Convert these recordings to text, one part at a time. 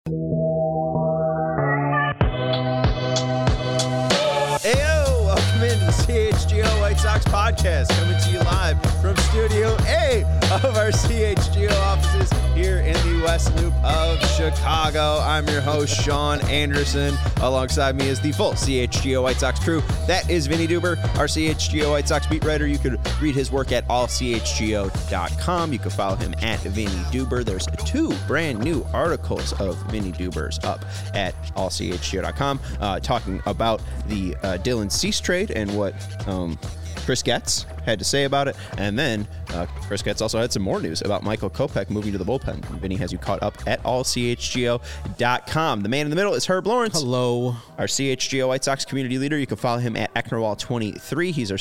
Ayo, welcome into the CHGO White Sox podcast, coming to you live from Studio A of our CHGO offices here in the West Loop of Chicago. I'm your host, Sean Anderson. Alongside me is the full CHGO White Sox crew. That is Vinny Duber, our CHGO White Sox beat writer. You could read his work at allchgo.com. You can follow him at Vinny Duber. There's 2 brand new articles of Vinny Duber's up at allchgo.com talking about the Dylan Cease trade and what Chris Getz had to say about it. And then Chris Getz also had some more news about Michael Kopech moving to the bullpen. Vinny has you caught up at allchgo.com. The man in the middle is Herb Lawrence. Hello. Our CHGO White Sox community leader. You can follow him at Ecknerwall23. He's our...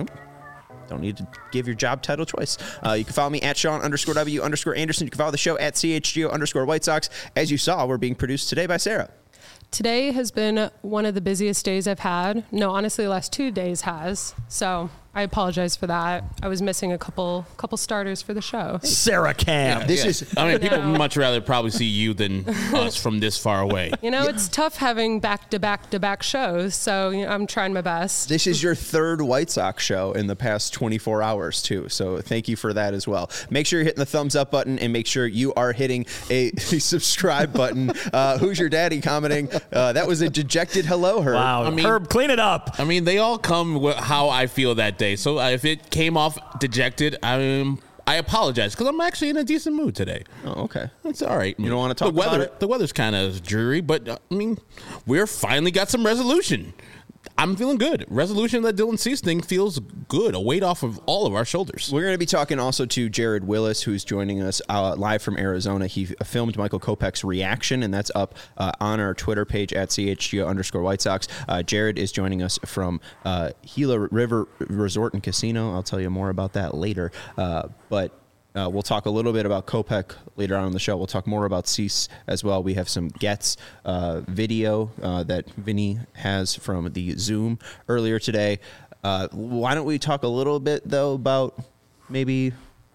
Don't need to give your job title twice. You can follow me at Sean_W_Anderson. You can follow the show at CHGO_White Sox. As you saw, we're being produced today by Sarah. Today has been one of the busiest days I've had. No, honestly, the last 2 days has. So I apologize for that. I was missing a couple starters for the show. Sarah Cam. People much rather probably see you than us from this far away. You know, it's tough having back-to-back shows, so I'm trying my best. This is your 3rd White Sox show in the past 24 hours, too, so thank you for that as well. Make sure you're hitting the thumbs up button and make sure you are hitting a subscribe button. Who's your daddy commenting? That was a dejected hello, Herb. Wow, Herb, clean it up. I mean, they all come with how I feel that day. So if it came off dejected, I apologize because I'm actually in a decent mood today. Oh, okay. It's all right. You don't want to talk about it? The weather's kind of dreary, but I mean, we're finally got some resolution. I'm feeling good. Resolution of that Dylan Cease thing feels good. A weight off of all of our shoulders. We're going to be talking also to Jared Willis, who's joining us live from Arizona. He filmed Michael Kopech's reaction, and that's up on our Twitter page at CHGO_White Sox. Jared is joining us from Gila River Resort and Casino. I'll tell you more about that later. But we'll talk a little bit about Kopech later on in the show. We'll talk more about Cease as well. We have some Getz video that Vinny has from the Zoom earlier today. Why don't we talk a little bit, though, about maybe,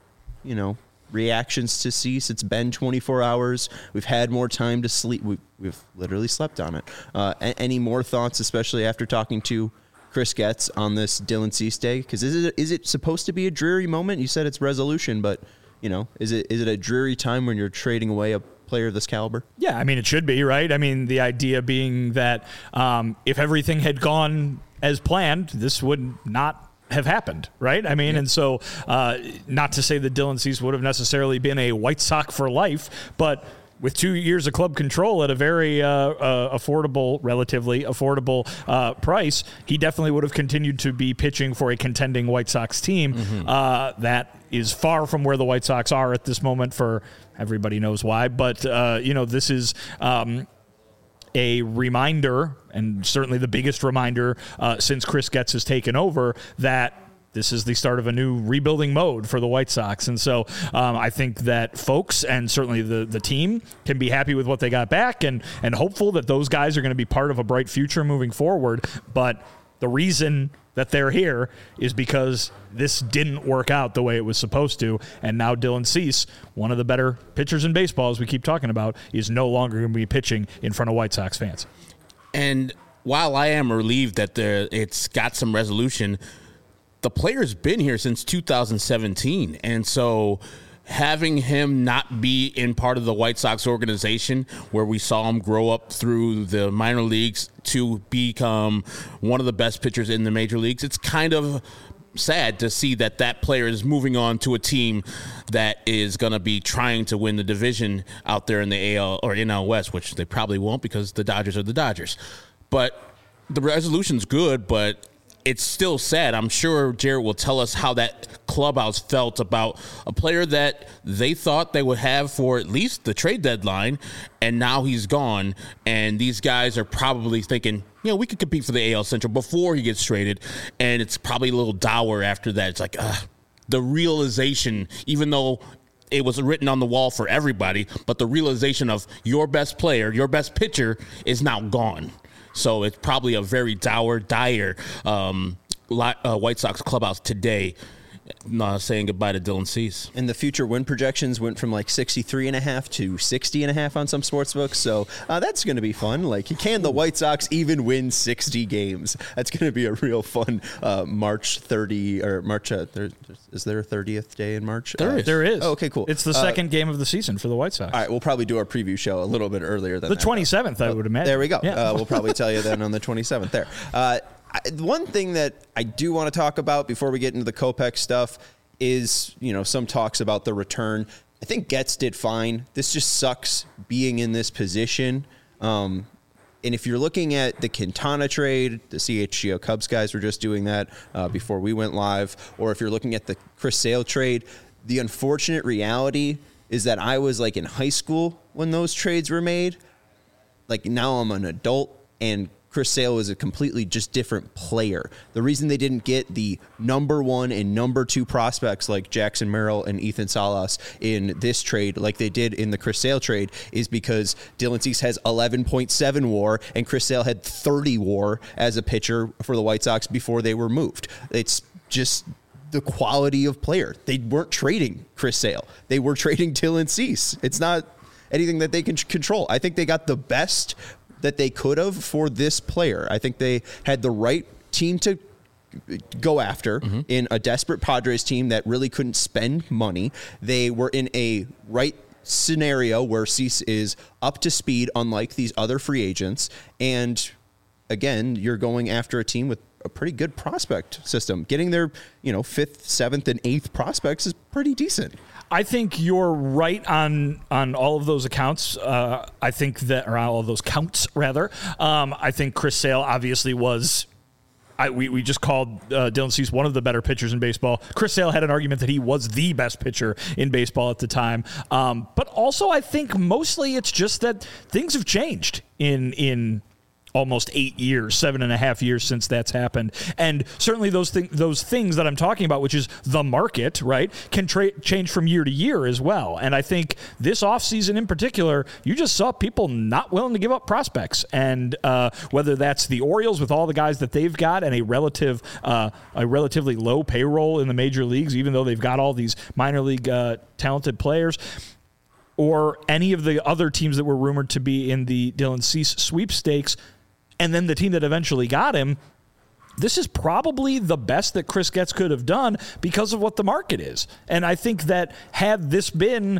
reactions to Cease? It's been 24 hours. We've had more time to sleep. We've literally slept on it. Any more thoughts, especially after talking to Chris Getz on this Dylan Cease day? Because is it supposed to be a dreary moment? You said it's resolution, but is it a dreary time when you're trading away a player of this caliber? Yeah, I mean, it should be, right? I mean, the idea being that if everything had gone as planned, this would not have happened, right? I mean, and so not to say that Dylan Cease would have necessarily been a White Sox for life, but with 2 years of club control at a very relatively affordable price, he definitely would have continued to be pitching for a contending White Sox team that is far from where the White Sox are at this moment for everybody knows why. But, this is a reminder, and certainly the biggest reminder since Chris Getz has taken over, that this is the start of a new rebuilding mode for the White Sox. And so I think that folks and certainly the team can be happy with what they got back and hopeful that those guys are going to be part of a bright future moving forward. But the reason that they're here is because this didn't work out the way it was supposed to. And now Dylan Cease, one of the better pitchers in baseball, as we keep talking about, is no longer going to be pitching in front of White Sox fans. And while I am relieved that it's got some resolution, the player's been here since 2017, and so having him not be in part of the White Sox organization where we saw him grow up through the minor leagues to become one of the best pitchers in the major leagues, it's kind of sad to see that player is moving on to a team that is going to be trying to win the division out there in the AL or NL West, which they probably won't because the Dodgers are the Dodgers. But the resolution's good, but it's still sad. I'm sure Jared will tell us how that clubhouse felt about a player that they thought they would have for at least the trade deadline, and now he's gone. And these guys are probably thinking, we could compete for the AL Central before he gets traded, and it's probably a little dour after that. It's like the realization, even though it was written on the wall for everybody, but the realization of your best player, your best pitcher is now gone. So it's probably a very dire White Sox clubhouse today. saying goodbye to Dylan Cease. And the future win projections went from like 63.5 to 60.5 on some sports books. So that's going to be fun. Like, can the White Sox even win 60 games? That's going to be a real fun March 30 or March. Is there a 30th day in March? There is. Oh, okay, cool. It's the second game of the season for the White Sox. All right, we'll probably do our preview show a little bit earlier than the 27th, I would imagine. There we go. Yeah. We'll probably tell you then on the 27th there. One thing that I do want to talk about before we get into the Kopech stuff is, some talks about the return. I think Getz did fine. This just sucks being in this position. And if you're looking at the Quintana trade, the CHGO Cubs guys were just doing that before we went live, or if you're looking at the Chris Sale trade, the unfortunate reality is that I was like in high school when those trades were made. Like, now I'm an adult, and Chris Sale is a completely just different player. The reason they didn't get the number 1 and number 2 prospects like Jackson Merrill and Ethan Salas in this trade, like they did in the Chris Sale trade, is because Dylan Cease has 11.7 WAR and Chris Sale had 30 WAR as a pitcher for the White Sox before they were moved. It's just the quality of player. They weren't trading Chris Sale. They were trading Dylan Cease. It's not anything that they can control. I think they got the best that they could have for this player. I think they had the right team to go after in a desperate Padres team that really couldn't spend money. They were in a right scenario where Cease is up to speed, unlike these other free agents. And again, you're going after a team with a pretty good prospect system. Getting their, 5th, 7th, and 8th prospects is pretty decent. I think you're right on all of those accounts. I think that, or all of those counts, rather. I think Chris Sale obviously was. We just called Dylan Cease one of the better pitchers in baseball. Chris Sale had an argument that he was the best pitcher in baseball at the time. But also, I think mostly it's just that things have changed in almost 8 years, 7.5 years since that's happened. And certainly those things that I'm talking about, which is the market, right, can change from year to year as well. And I think this offseason in particular, you just saw people not willing to give up prospects. And whether that's the Orioles with all the guys that they've got and a relatively low payroll in the major leagues, even though they've got all these minor league talented players, or any of the other teams that were rumored to be in the Dylan Cease sweepstakes, and then the team that eventually got him, this is probably the best that Chris Getz could have done because of what the market is. And I think that had this been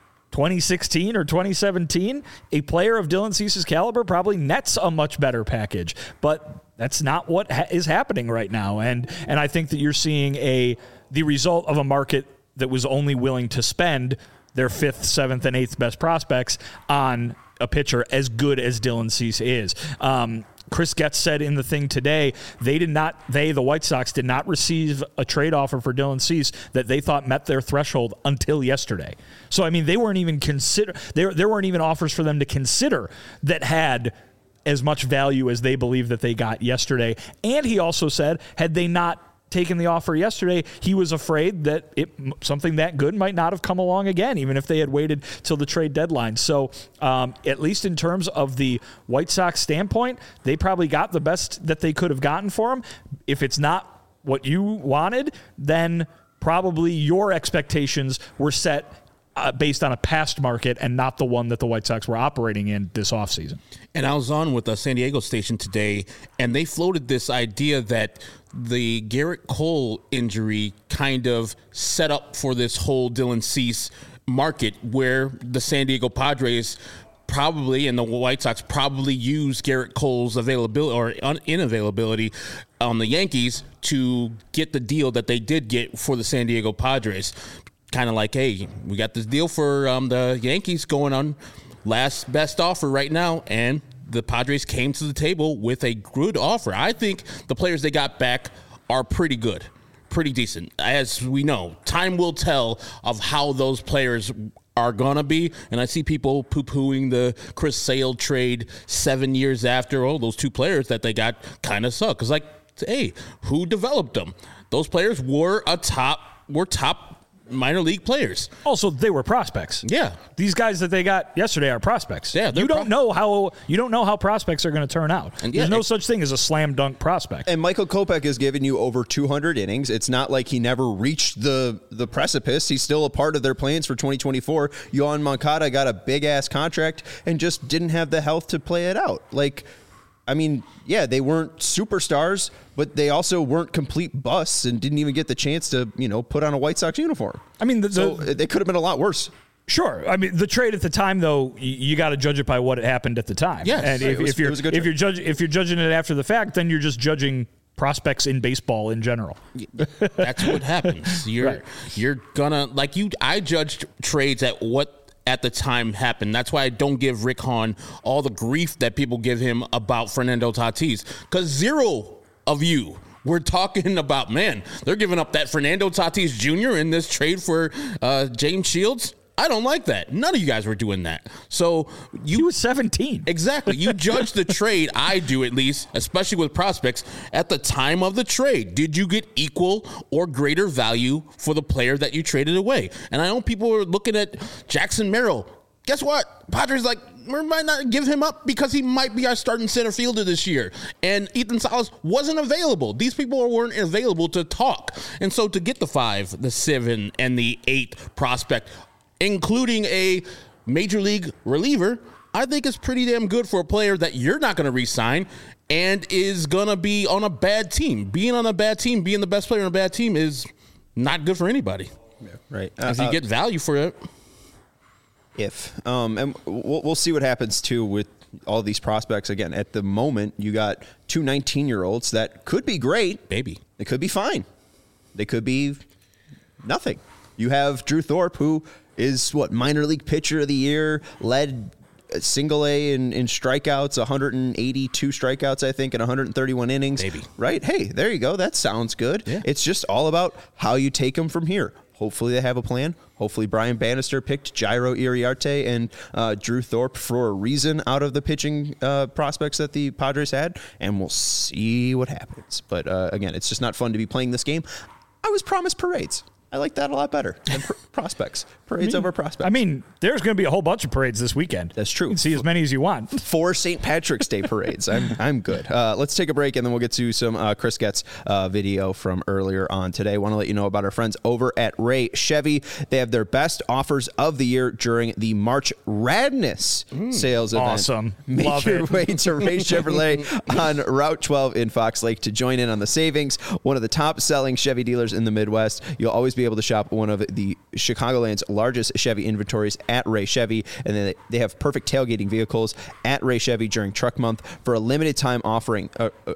2016 or 2017, a player of Dylan Cease's caliber probably nets a much better package. But that's not what is happening right now. And I think that you're seeing the result of a market that was only willing to spend their 5th, 7th, and 8th best prospects on a pitcher as good as Dylan Cease is. Chris Getz said in the thing today, the White Sox did not receive a trade offer for Dylan Cease that they thought met their threshold until yesterday. So, I mean, they weren't even there weren't even offers for them to consider that had as much value as they believed that they got yesterday. And he also said, had they not taken the offer yesterday, he was afraid that something that good might not have come along again, even if they had waited till the trade deadline. So at least in terms of the White Sox standpoint, they probably got the best that they could have gotten for him. If it's not what you wanted, then probably your expectations were set based on a past market and not the one that the White Sox were operating in this offseason. And I was on with a San Diego station today, and they floated this idea that the Garrett Cole injury kind of set up for this whole Dylan Cease market where the San Diego Padres probably and the White Sox probably use Garrett Cole's availability or inavailability on the Yankees to get the deal that they did get for the San Diego Padres. Kind of like, hey, we got this deal for the Yankees going on last best offer right now, and the Padres came to the table with a good offer. I think the players they got back are pretty good, pretty decent. As we know, time will tell of how those players are going to be, and I see people poo-pooing the Chris Sale trade 7 years after. Oh, those two players that they got kind of suck. It's like, hey, who developed them? Those players were top minor league players. Also, they were prospects. Yeah. These guys that they got yesterday are prospects. Yeah, you don't know how prospects are going to turn out. And There's no such thing as a slam dunk prospect. And Michael Kopech has given you over 200 innings. It's not like he never reached the precipice. He's still a part of their plans for 2024. Yohan Moncada got a big-ass contract and just didn't have the health to play it out. Like, I mean, yeah, they weren't superstars, but they also weren't complete busts and didn't even get the chance to, put on a White Sox uniform. I mean, so they could have been a lot worse. Sure. I mean, the trade at the time, though, you got to judge it by what happened at the time. Yes. And if you're judging it after the fact, then you're just judging prospects in baseball in general. That's what happens. You're gonna I judged trades at the time happened. That's why I don't give Rick Hahn all the grief that people give him about Fernando Tatis, because zero of you were talking about, man, they're giving up that Fernando Tatis Jr. in this trade for James Shields. I don't like that. None of you guys were doing that. So he was 17. Exactly. You judge the trade, I do at least, especially with prospects, at the time of the trade. Did you get equal or greater value for the player that you traded away? And I know people are looking at Jackson Merrill. Guess what? Padres we might not give him up because he might be our starting center fielder this year. And Ethan Salas wasn't available. These people weren't available to talk. And so to get the 5, the 7, and the 8 prospect, including a major league reliever, I think is pretty damn good for a player that you're not going to re-sign and is going to be on a bad team. Being on a bad team, being the best player on a bad team is not good for anybody. Yeah, right. If you get value for it. And we'll see what happens, too, with all these prospects. Again, at the moment, you got 2 19-year-olds that could be great. Baby. They could be fine. They could be nothing. You have Drew Thorpe, who is minor league pitcher of the year, led single A in strikeouts, 182 strikeouts, I think, in 131 innings. Baby. Right? Hey, there you go. That sounds good. Yeah. It's just all about how you take them from here. Hopefully they have a plan. Hopefully Brian Bannister picked Jairo Iriarte and Drew Thorpe for a reason out of the pitching prospects that the Padres had, and we'll see what happens. But again, it's just not fun to be playing this game. I was promised parades. I like that a lot better than prospects. Parades over prospects. I mean, there's going to be a whole bunch of parades this weekend. That's true. You can see as many as you want. 4 St. Patrick's Day parades. I'm good. Let's take a break, and then we'll get to some Chris Getz video from earlier on today. I want to let you know about our friends over at Ray Chevy. They have their best offers of the year during the March Radness sales event. Awesome. Make Love your it. way to Ray Chevrolet on Route 12 in Fox Lake to join in on the savings. One of the top-selling Chevy dealers in the Midwest. You'll always be able to shop one of the Chicagoland's largest Chevy inventories at Ray Chevy, and then they have perfect tailgating vehicles at Ray Chevy during Truck Month. For a limited time, they're offering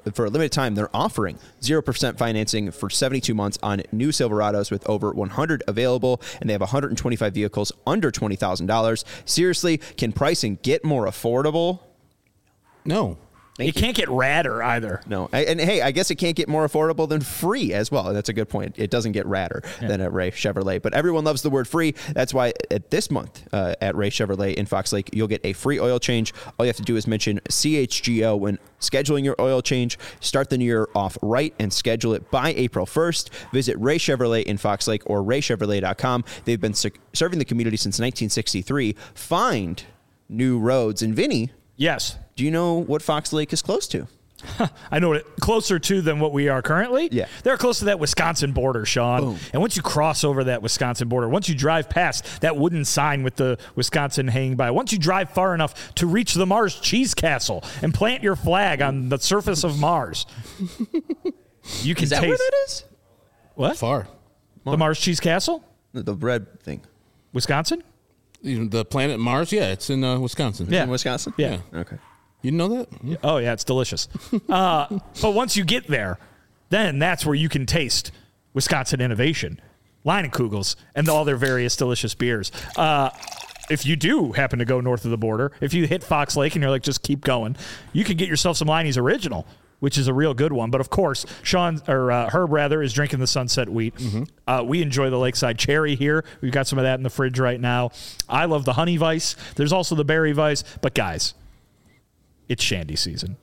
0% financing for 72 months on new Silverados with over 100 available, and they have 125 vehicles under $20,000. Seriously, can pricing get more affordable? No. It can't get radder either. No. And hey, I guess it can't get more affordable than free as well. And that's a good point. It doesn't get radder than at Ray Chevrolet. But everyone loves the word free. That's why at this month at Ray Chevrolet in Fox Lake, you'll get a free oil change. All you have to do is mention CHGO when scheduling your oil change. Start the new year off right and schedule it by April 1st. Visit Ray Chevrolet in Fox Lake or raychevrolet.com. They've been serving the community since 1963. Find new roads. And Vinny. Yes. Do you know what Fox Lake is close to? I know it closer to than what we are currently. Yeah. They're close to that Wisconsin border, Sean. Boom. And once you cross over that Wisconsin border, once you drive past that wooden sign with the Wisconsin hanging by, once you drive far enough to reach the Mars Cheese Castle and plant your flag on the surface of Mars, you can Is that taste. where that is? What? Far. The Mars Cheese Castle? The red thing. Wisconsin? The planet Mars, yeah, it's in Wisconsin. Yeah. In Wisconsin? Yeah. Okay. You didn't know that? Yeah. Oh, yeah, it's delicious. But once you get there, then that's where you can taste Wisconsin innovation, Leinenkugel's, and all their various delicious beers. If you do happen to go north of the border, if you hit Fox Lake and you're like, just keep going, you can get yourself some Leinie's Original, which is a real good one. But of course, Herb is drinking the Sunset Wheat. Mm-hmm. We enjoy the Lakeside Cherry here. We've got some of that in the fridge right now. I love the Honey Vice. There's also the Berry Vice. But guys, it's Shandy season.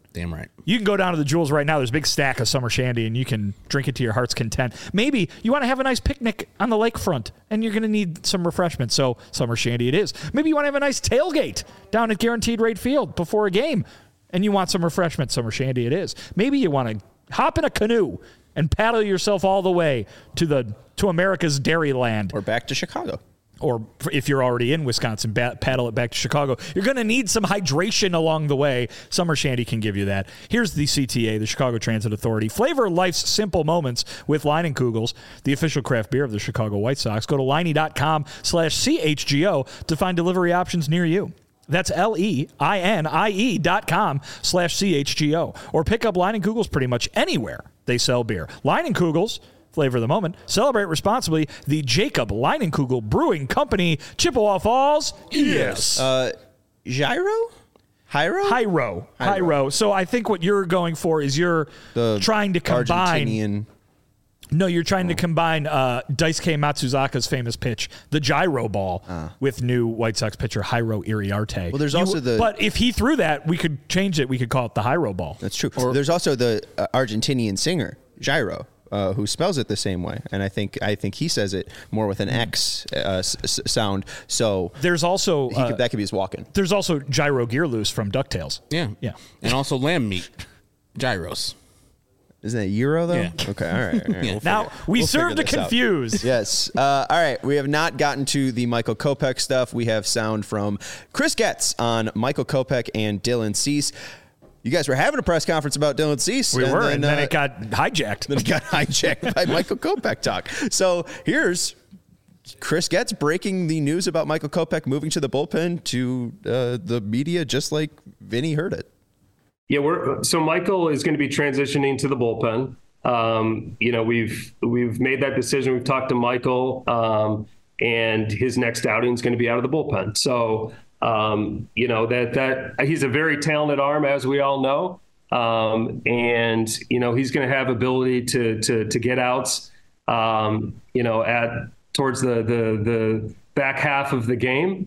Damn right. You can go down to the Jewels right now. There's a big stack of summer shandy, and you can drink it to your heart's content. Maybe you want to have a nice picnic on the lakefront, and you're going to need some refreshment, so summer shandy it is. Maybe you want to have a nice tailgate down at Guaranteed Rate Field before a game, and you want some refreshment, summer shandy it is. Maybe you want to hop in a canoe and paddle yourself all the way to America's Dairyland. Or back to Chicago. Or if you're already in Wisconsin, paddle it back to Chicago. You're going to need some hydration along the way. Summer Shandy can give you that. Here's the CTA, the Chicago Transit Authority. Flavor life's simple moments with Leinenkugels, the official craft beer of the Chicago White Sox. Go to Leinie.com/CHGO to find delivery options near you. That's LEINIE.com/CHGO. Or pick up Leinenkugels pretty much anywhere they sell beer. Leinenkugels, flavor of the moment. Celebrate responsibly. The Jacob Leinenkugel Brewing Company, Chippewa Falls. Yes. Gyro? Hyro. So I think what you're going for is you're trying to combine. Argentinian. No, you're trying to combine Daisuke Matsuzaka's famous pitch, the gyro ball, with new White Sox pitcher Jairo Iriarte. Well, there's also But if he threw that, we could change it. We could call it the Jairo ball. That's true. There's also the Argentinian singer, Gyro. Who spells it the same way, and I think he says it more with an X sound. So there's also that could be his walk-in. There's also Gyro Gearloose from DuckTales. Yeah, and also lamb meat, gyros. Isn't that Euro though? Yeah. Okay, all right. Yeah. Now we serve to confuse. Yes. All right. We have not gotten to the Michael Kopech stuff. We have sound from Chris Getz on Michael Kopech and Dylan Cease. You guys were having a press conference about Dylan Cease. And then it got hijacked. Then it got hijacked by Michael Kopech talk. So here's Chris Getz breaking the news about Michael Kopech moving to the bullpen to the media, just like Vinny heard it. Yeah, so Michael is going to be transitioning to the bullpen. We've made that decision. We've talked to Michael, and his next outing is going to be out of the bullpen. So. That he's a very talented arm, as we all know. And he's going to have ability to get outs, towards the back half of the game.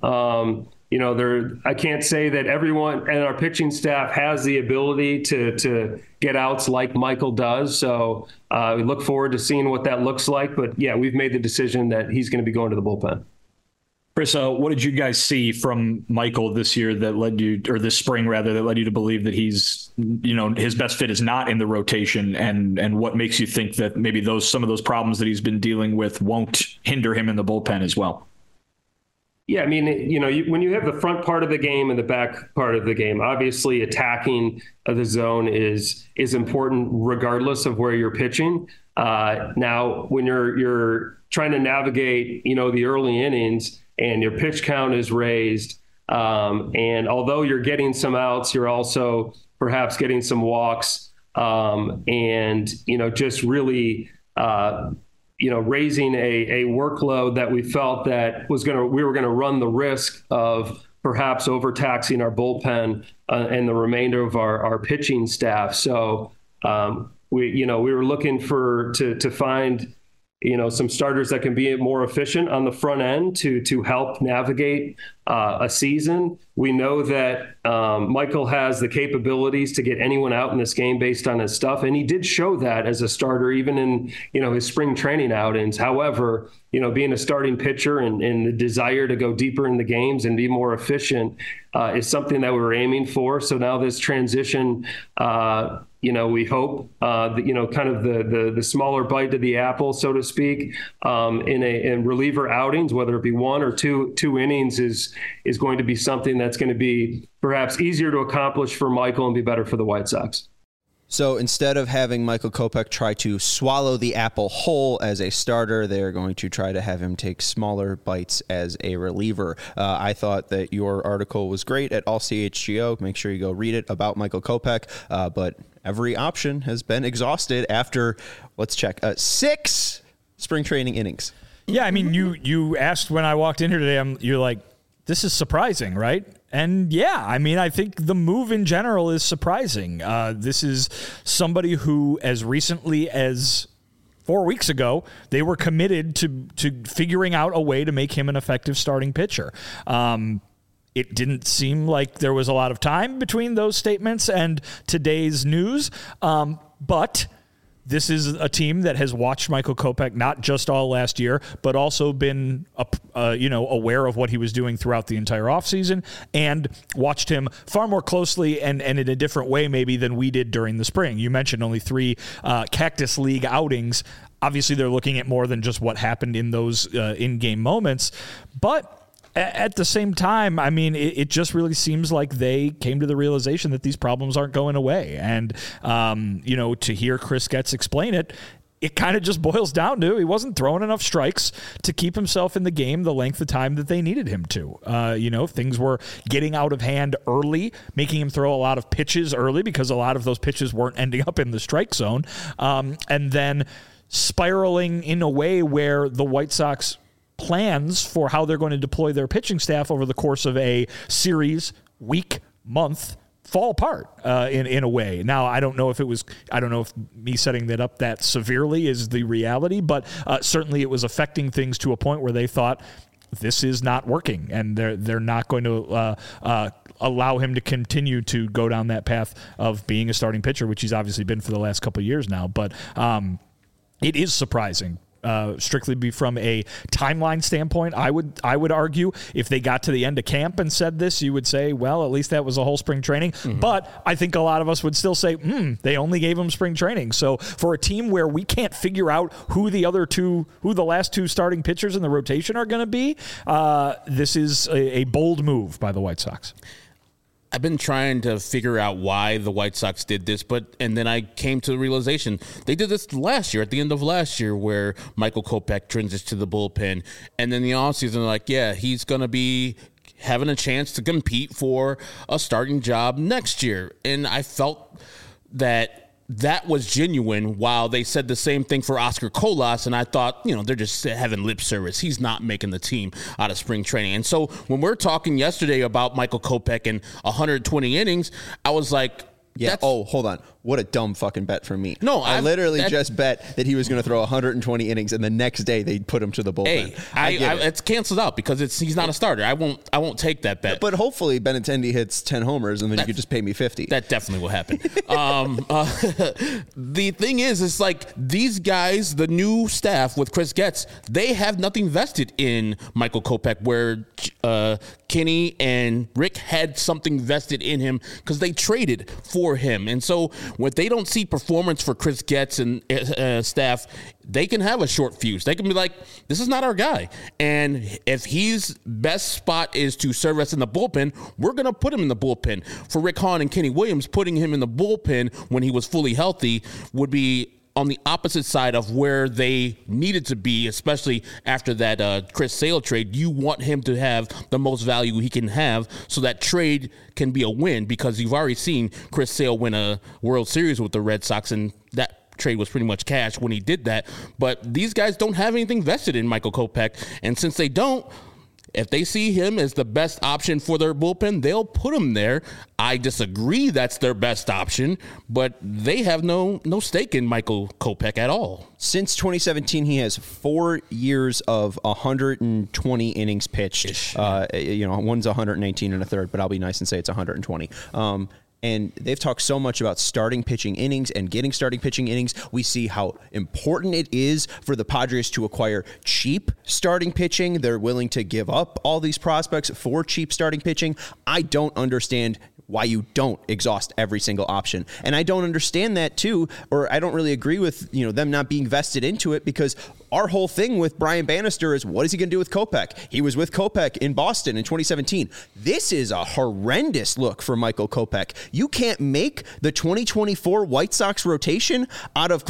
I can't say that everyone and our pitching staff has the ability to get outs like Michael does. So we look forward to seeing what that looks like. But yeah, we've made the decision that he's going to be going to the bullpen. Chris, what did you guys see from Michael this year that led you, or this spring rather, that led you to believe that he's, his best fit is not in the rotation, and what makes you think that maybe some of those problems that he's been dealing with won't hinder him in the bullpen as well? Yeah, I mean, when you have the front part of the game and the back part of the game, obviously attacking the zone is important regardless of where you're pitching. Now, when you're trying to navigate, the early innings, and your pitch count is raised. And although you're getting some outs, you're also perhaps getting some walks, and, just really, raising a workload that we felt that we were going to run the risk of perhaps overtaxing our bullpen and the remainder of our pitching staff. So we were looking to find some starters that can be more efficient on the front end to help navigate a season. We know that Michael has the capabilities to get anyone out in this game based on his stuff, and he did show that as a starter, even in his spring training outings. However, being a starting pitcher and the desire to go deeper in the games and be more efficient is something that we were aiming for. So now this transition, we hope, kind of the smaller bite to the apple, so to speak, in reliever outings, whether it be one or two innings, is going to be something that's going to be perhaps easier to accomplish for Michael and be better for the White Sox. So instead of having Michael Kopech try to swallow the apple whole as a starter, they're going to try to have him take smaller bites as a reliever. I thought that your article was great at All CHGO. Make sure you go read it about Michael Kopech. But every option has been exhausted after, let's check, 6 spring training innings. Yeah, I mean, you asked when I walked in here today, you're like, this is surprising, right? And yeah, I mean, I think the move in general is surprising. This is somebody who, as recently as 4 weeks ago, they were committed to figuring out a way to make him an effective starting pitcher. It didn't seem like there was a lot of time between those statements and today's news. But this is a team that has watched Michael Kopech not just all last year, but also been aware of what he was doing throughout the entire offseason and watched him far more closely and in a different way maybe than we did during the spring. You mentioned only 3 Cactus League outings. Obviously, they're looking at more than just what happened in those in-game moments. But at the same time, I mean, it just really seems like they came to the realization that these problems aren't going away. And, to hear Chris Getz explain it, it kind of just boils down to he wasn't throwing enough strikes to keep himself in the game the length of time that they needed him to. Things were getting out of hand early, making him throw a lot of pitches early because a lot of those pitches weren't ending up in the strike zone. And then spiraling in a way where the White Sox plans for how they're going to deploy their pitching staff over the course of a series, week, month, fall apart in a way. Now, I don't know if me setting that up that severely is the reality, but certainly it was affecting things to a point where they thought this is not working, and they're not going to allow him to continue to go down that path of being a starting pitcher, which he's obviously been for the last couple of years now. But it is surprising. Strictly from a timeline standpoint, I would argue if they got to the end of camp and said this, you would say, well, at least that was a whole spring training. Mm-hmm. But I think a lot of us would still say, they only gave him spring training. So for a team where we can't figure out who the last 2 starting pitchers in the rotation are going to be, this is a bold move by the White Sox. I've been trying to figure out why the White Sox did this, and then I came to the realization they did this last year, at the end of last year, where Michael Kopech transitioned to the bullpen, and then the offseason, they're like, yeah, he's going to be having a chance to compete for a starting job next year. And I felt that was genuine, while they said the same thing for Oscar Colas, and I thought, they're just having lip service. He's not making the team out of spring training. And so when we're talking yesterday about Michael Kopech and 120 innings, I was like, yeah. Oh, hold on. What a dumb fucking bet from me. No, I literally just bet that he was going to throw 120 innings, and the next day they'd put him to the bullpen. Hey, it's canceled out because he's not a starter. I won't take that bet. But hopefully Benintendi hits 10 homers, and then you could just pay me 50. That definitely will happen. The thing is, it's like these guys, the new staff with Chris Getz, they have nothing vested in Michael Kopech, where Kenny and Rick had something vested in him because they traded for him. And so when they don't see performance for Chris Getz and staff, they can have a short fuse. They can be like, this is not our guy. And if his best spot is to serve us in the bullpen, we're going to put him in the bullpen. For Rick Hahn and Kenny Williams, putting him in the bullpen when he was fully healthy would be on the opposite side of where they needed to be, especially after that Chris Sale trade. You want him to have the most value he can have, so that trade can be a win, because you've already seen Chris Sale win a World Series with the Red Sox, and that trade was pretty much cash when he did that. But these guys don't have anything vested in Michael Kopech, and since they don't, if they see him as the best option for their bullpen, they'll put him there. I disagree that's their best option, but they have no stake in Michael Kopech at all. Since 2017, he has 4 years of 120 innings pitched. One's 119 and a third, but I'll be nice and say it's 120. And they've talked so much about starting pitching innings and getting starting pitching innings. We see how important it is for the Padres to acquire cheap starting pitching. They're willing to give up all these prospects for cheap starting pitching. I don't understand why you don't exhaust every single option. And I don't understand that too, or I don't really agree with, them not being vested into it, because our whole thing with Brian Bannister is, what is he going to do with Kopech? He was with Kopech in Boston in 2017. This is a horrendous look for Michael Kopech. You can't make the 2024 White Sox rotation out of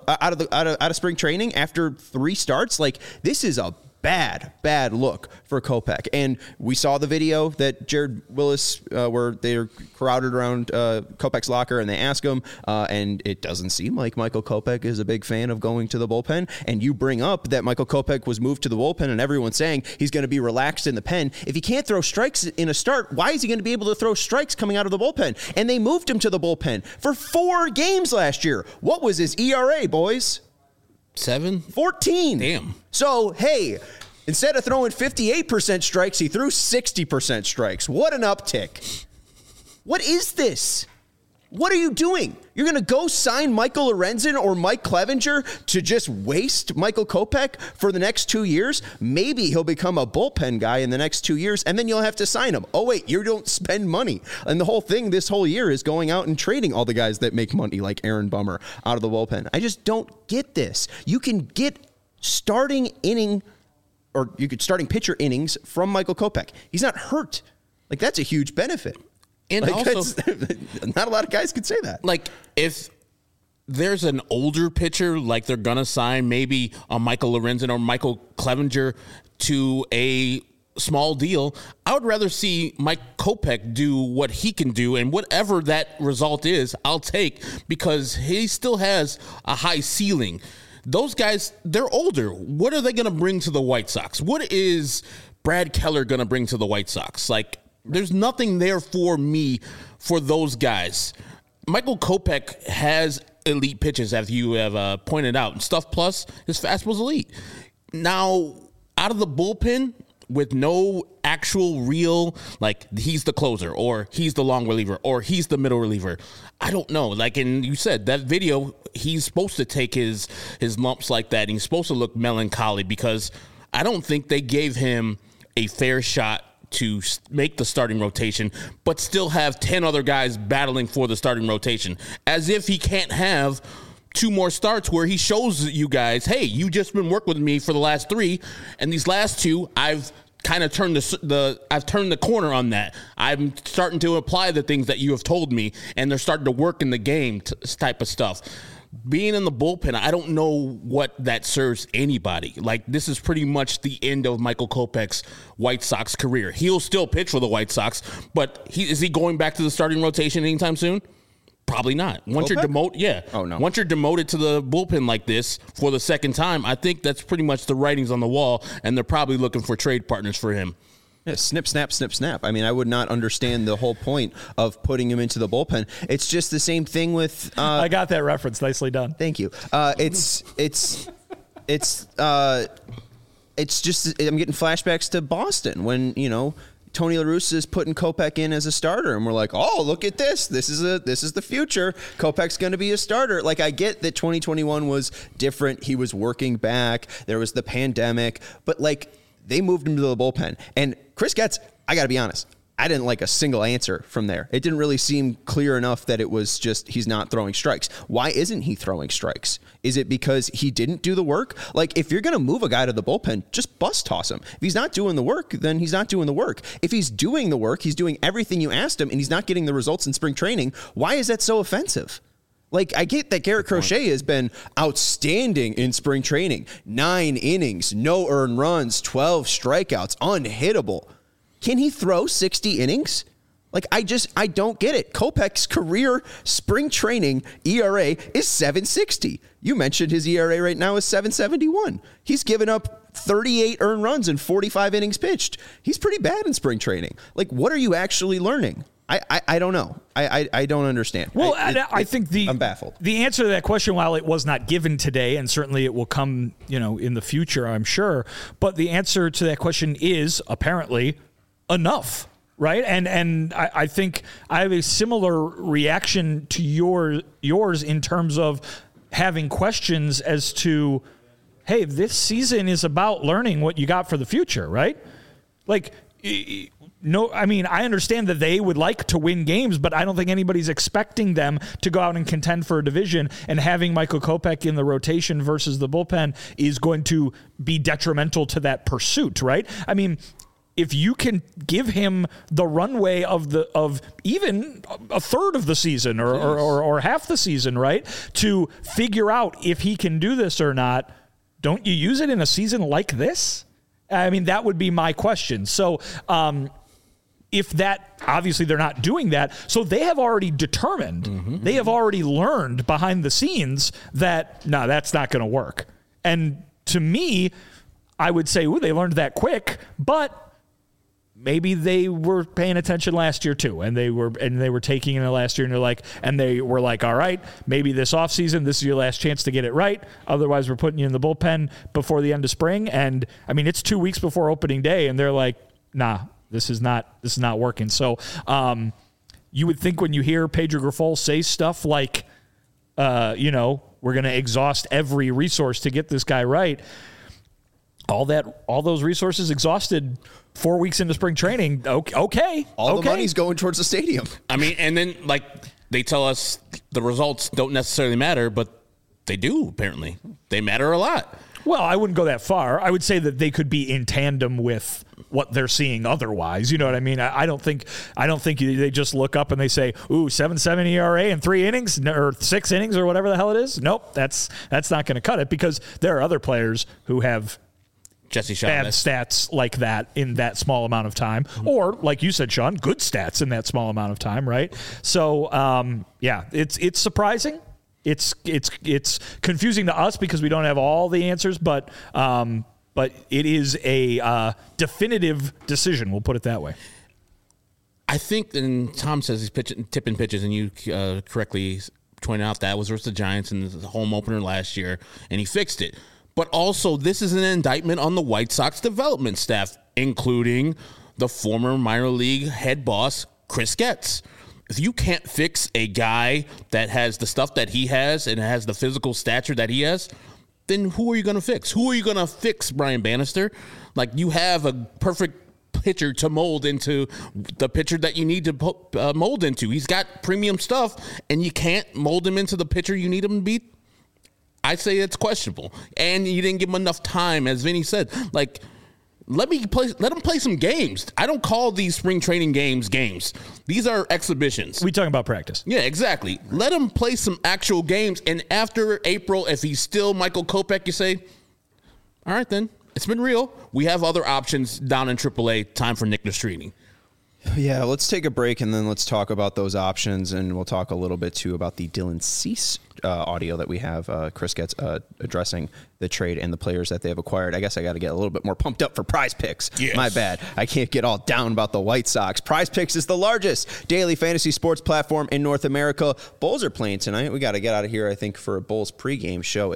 spring training after 3 starts. Like, this is a bad look for Kopech. And we saw the video that Jared Willis, where they're crowded around Kopech's locker and they ask him, and it doesn't seem like Michael Kopech is a big fan of going to the bullpen. And you bring up that Michael Kopech was moved to the bullpen, and everyone's saying he's going to be relaxed in the pen. If he can't throw strikes in a start, why is he going to be able to throw strikes coming out of the bullpen? And they moved him to the bullpen for 4 games last year. What was his ERA, boys? 7? 14. Damn. So, hey, Instead of throwing 58% strikes, he threw 60% strikes. What an uptick. What is this? What are you doing? You're going to go sign Michael Lorenzen or Mike Clevinger to just waste Michael Kopech for the next 2 years? Maybe he'll become a bullpen guy in the next 2 years, and then you'll have to sign him. Oh, wait, you don't spend money. And the whole thing this whole year is going out and trading all the guys that make money, like Aaron Bummer, out of the bullpen. I just don't get this. You can get starting pitcher innings from Michael Kopech. He's not hurt. Like, that's a huge benefit. And like, also, not a lot of guys could say that. Like, if there's an older pitcher, like they're going to sign maybe a Michael Lorenzen or Michael Clevinger to a small deal, I would rather see Mike Kopech do what he can do, and whatever that result is, I'll take, because he still has a high ceiling. Those guys, they're older. What are they going to bring to the White Sox? What is Brad Keller going to bring to the White Sox? Like, there's nothing there for me for those guys. Michael Kopech has elite pitches, as you have pointed out. Stuff plus, his fastball's elite. Now, out of the bullpen, with no actual real, like, he's the closer, or he's the long reliever, or he's the middle reliever. I don't know. Like, and you said, that video, he's supposed to take his lumps like that, and he's supposed to look melancholy, because I don't think they gave him a fair shot to make the starting rotation, but still have 10 other guys battling for the starting rotation, as if he can't have 2 more starts where he shows you guys, hey, you just been working with me for the last 3, and these last 2, I've kind of turned I've turned the corner on that. I'm starting to apply the things that you have told me, and they're starting to work in the game type of stuff. Being in the bullpen, I don't know what that serves anybody. Like, this is pretty much the end of Michael Kopech's White Sox career. He'll still pitch for the White Sox, but is he going back to the starting rotation anytime soon? Probably not. Once you're demoted, Once you're demoted to the bullpen like this for the second time, I think that's pretty much the writings on the wall, and they're probably looking for trade partners for him. Yeah, snip, snap, snip, snap. I mean, I would not understand the whole point of putting him into the bullpen. It's just the same thing with. I got that reference. Nicely done. Thank you. It's just I'm getting flashbacks to Boston when Tony La Russa is putting Kopech in as a starter, and we're like, oh, look at this. This is the future. Kopech's going to be a starter. Like, I get that 2021 was different. He was working back. There was the pandemic, but like, they moved him to the bullpen. And Chris Getz, I got to be honest, I didn't like a single answer from there. It didn't really seem clear enough that it was just he's not throwing strikes. Why isn't he throwing strikes? Is it because he didn't do the work? Like, if you're going to move a guy to the bullpen, just bus toss him. If he's not doing the work, then he's not doing the work. If he's doing the work, he's doing everything you asked him, and he's not getting the results in spring training, why is that so offensive? Like, I get that Garrett Crochet has been outstanding in spring training. 9 innings, no earned runs, 12 strikeouts, unhittable. Can he throw 60 innings? Like, I don't get it. Kopech's career spring training ERA is 7.60. You mentioned his ERA right now is 7.71. He's given up 38 earned runs and 45 innings pitched. He's pretty bad in spring training. Like, what are you actually learning? I don't know. I don't understand. Well, I think I'm baffled. The answer to that question, while it was not given today, and certainly it will come, in the future, I'm sure, but the answer to that question is apparently enough, right? And I think I have a similar reaction to yours in terms of having questions as to, hey, this season is about learning what you got for the future, right? Like, no, I mean, I understand that they would like to win games, but I don't think anybody's expecting them to go out and contend for a division, and having Michael Kopech in the rotation versus the bullpen is going to be detrimental to that pursuit, right? I mean, if you can give him the runway of even a third of the season or half the season, right, to figure out if he can do this or not, don't you use it in a season like this? I mean, that would be my question. So, if that, obviously they're not doing that, so they have already determined, they have already learned behind the scenes that, no, that's not going to work. And to me, I would say, ooh, they learned that quick, but maybe they were paying attention last year too, and they were taking it last year, and they were like, all right, maybe this offseason, this is your last chance to get it right. Otherwise, we're putting you in the bullpen before the end of spring. And I mean, it's 2 weeks before opening day, and they're like, nah, this is not working. So you would think when you hear Pedro Grifol say stuff like, we're going to exhaust every resource to get this guy right. All those resources exhausted 4 weeks into spring training. Okay. All the money's going towards the stadium. I mean, and then they tell us the results don't necessarily matter, but they do, apparently. They matter a lot. Well, I wouldn't go that far. I would say that they could be in tandem with what they're seeing otherwise. You know what I mean? I don't think they just look up and they say, ooh, 7.7 ERA in 3 innings or 6 innings or whatever the hell it is. Nope, that's not going to cut it, because there are other players who have Jesse bad stats like that in that small amount of time, or like you said, Sean, good stats in that small amount of time, right? So, it's surprising. It's confusing to us because we don't have all the answers, but it is a definitive decision. We'll put it that way. I think, and Tom says he's tipping pitches, and you correctly pointed out that was versus the Giants in the home opener last year, and he fixed it. But also, this is an indictment on the White Sox development staff, including the former minor league head boss, Chris Getz. If you can't fix a guy that has the stuff that he has and has the physical stature that he has, then who are you going to fix? Who are you going to fix, Brian Bannister? You have a perfect pitcher to mold into the pitcher that you need to mold into. He's got premium stuff, and you can't mold him into the pitcher you need him to be. I say it's questionable, and you didn't give him enough time, as Vinny said. Let him play some games. I don't call these spring training games. These are exhibitions. We talking about practice. Yeah, exactly. Let him play some actual games, and after April, if he's still Michael Kopech, you say, all right, then it's been real. We have other options down in AAA. Time for Nick Nastrini. Yeah, let's take a break and then let's talk about those options, and we'll talk a little bit too about the Dylan Cease audio that we have. Chris Getz addressing the trade and the players that they have acquired. I guess I got to get a little bit more pumped up for Prize Picks. Yes. My bad. I can't get all down about the White Sox. Prize Picks is the largest daily fantasy sports platform in North America. Bulls are playing tonight. We got to get out of here, I think, for a Bulls pregame show at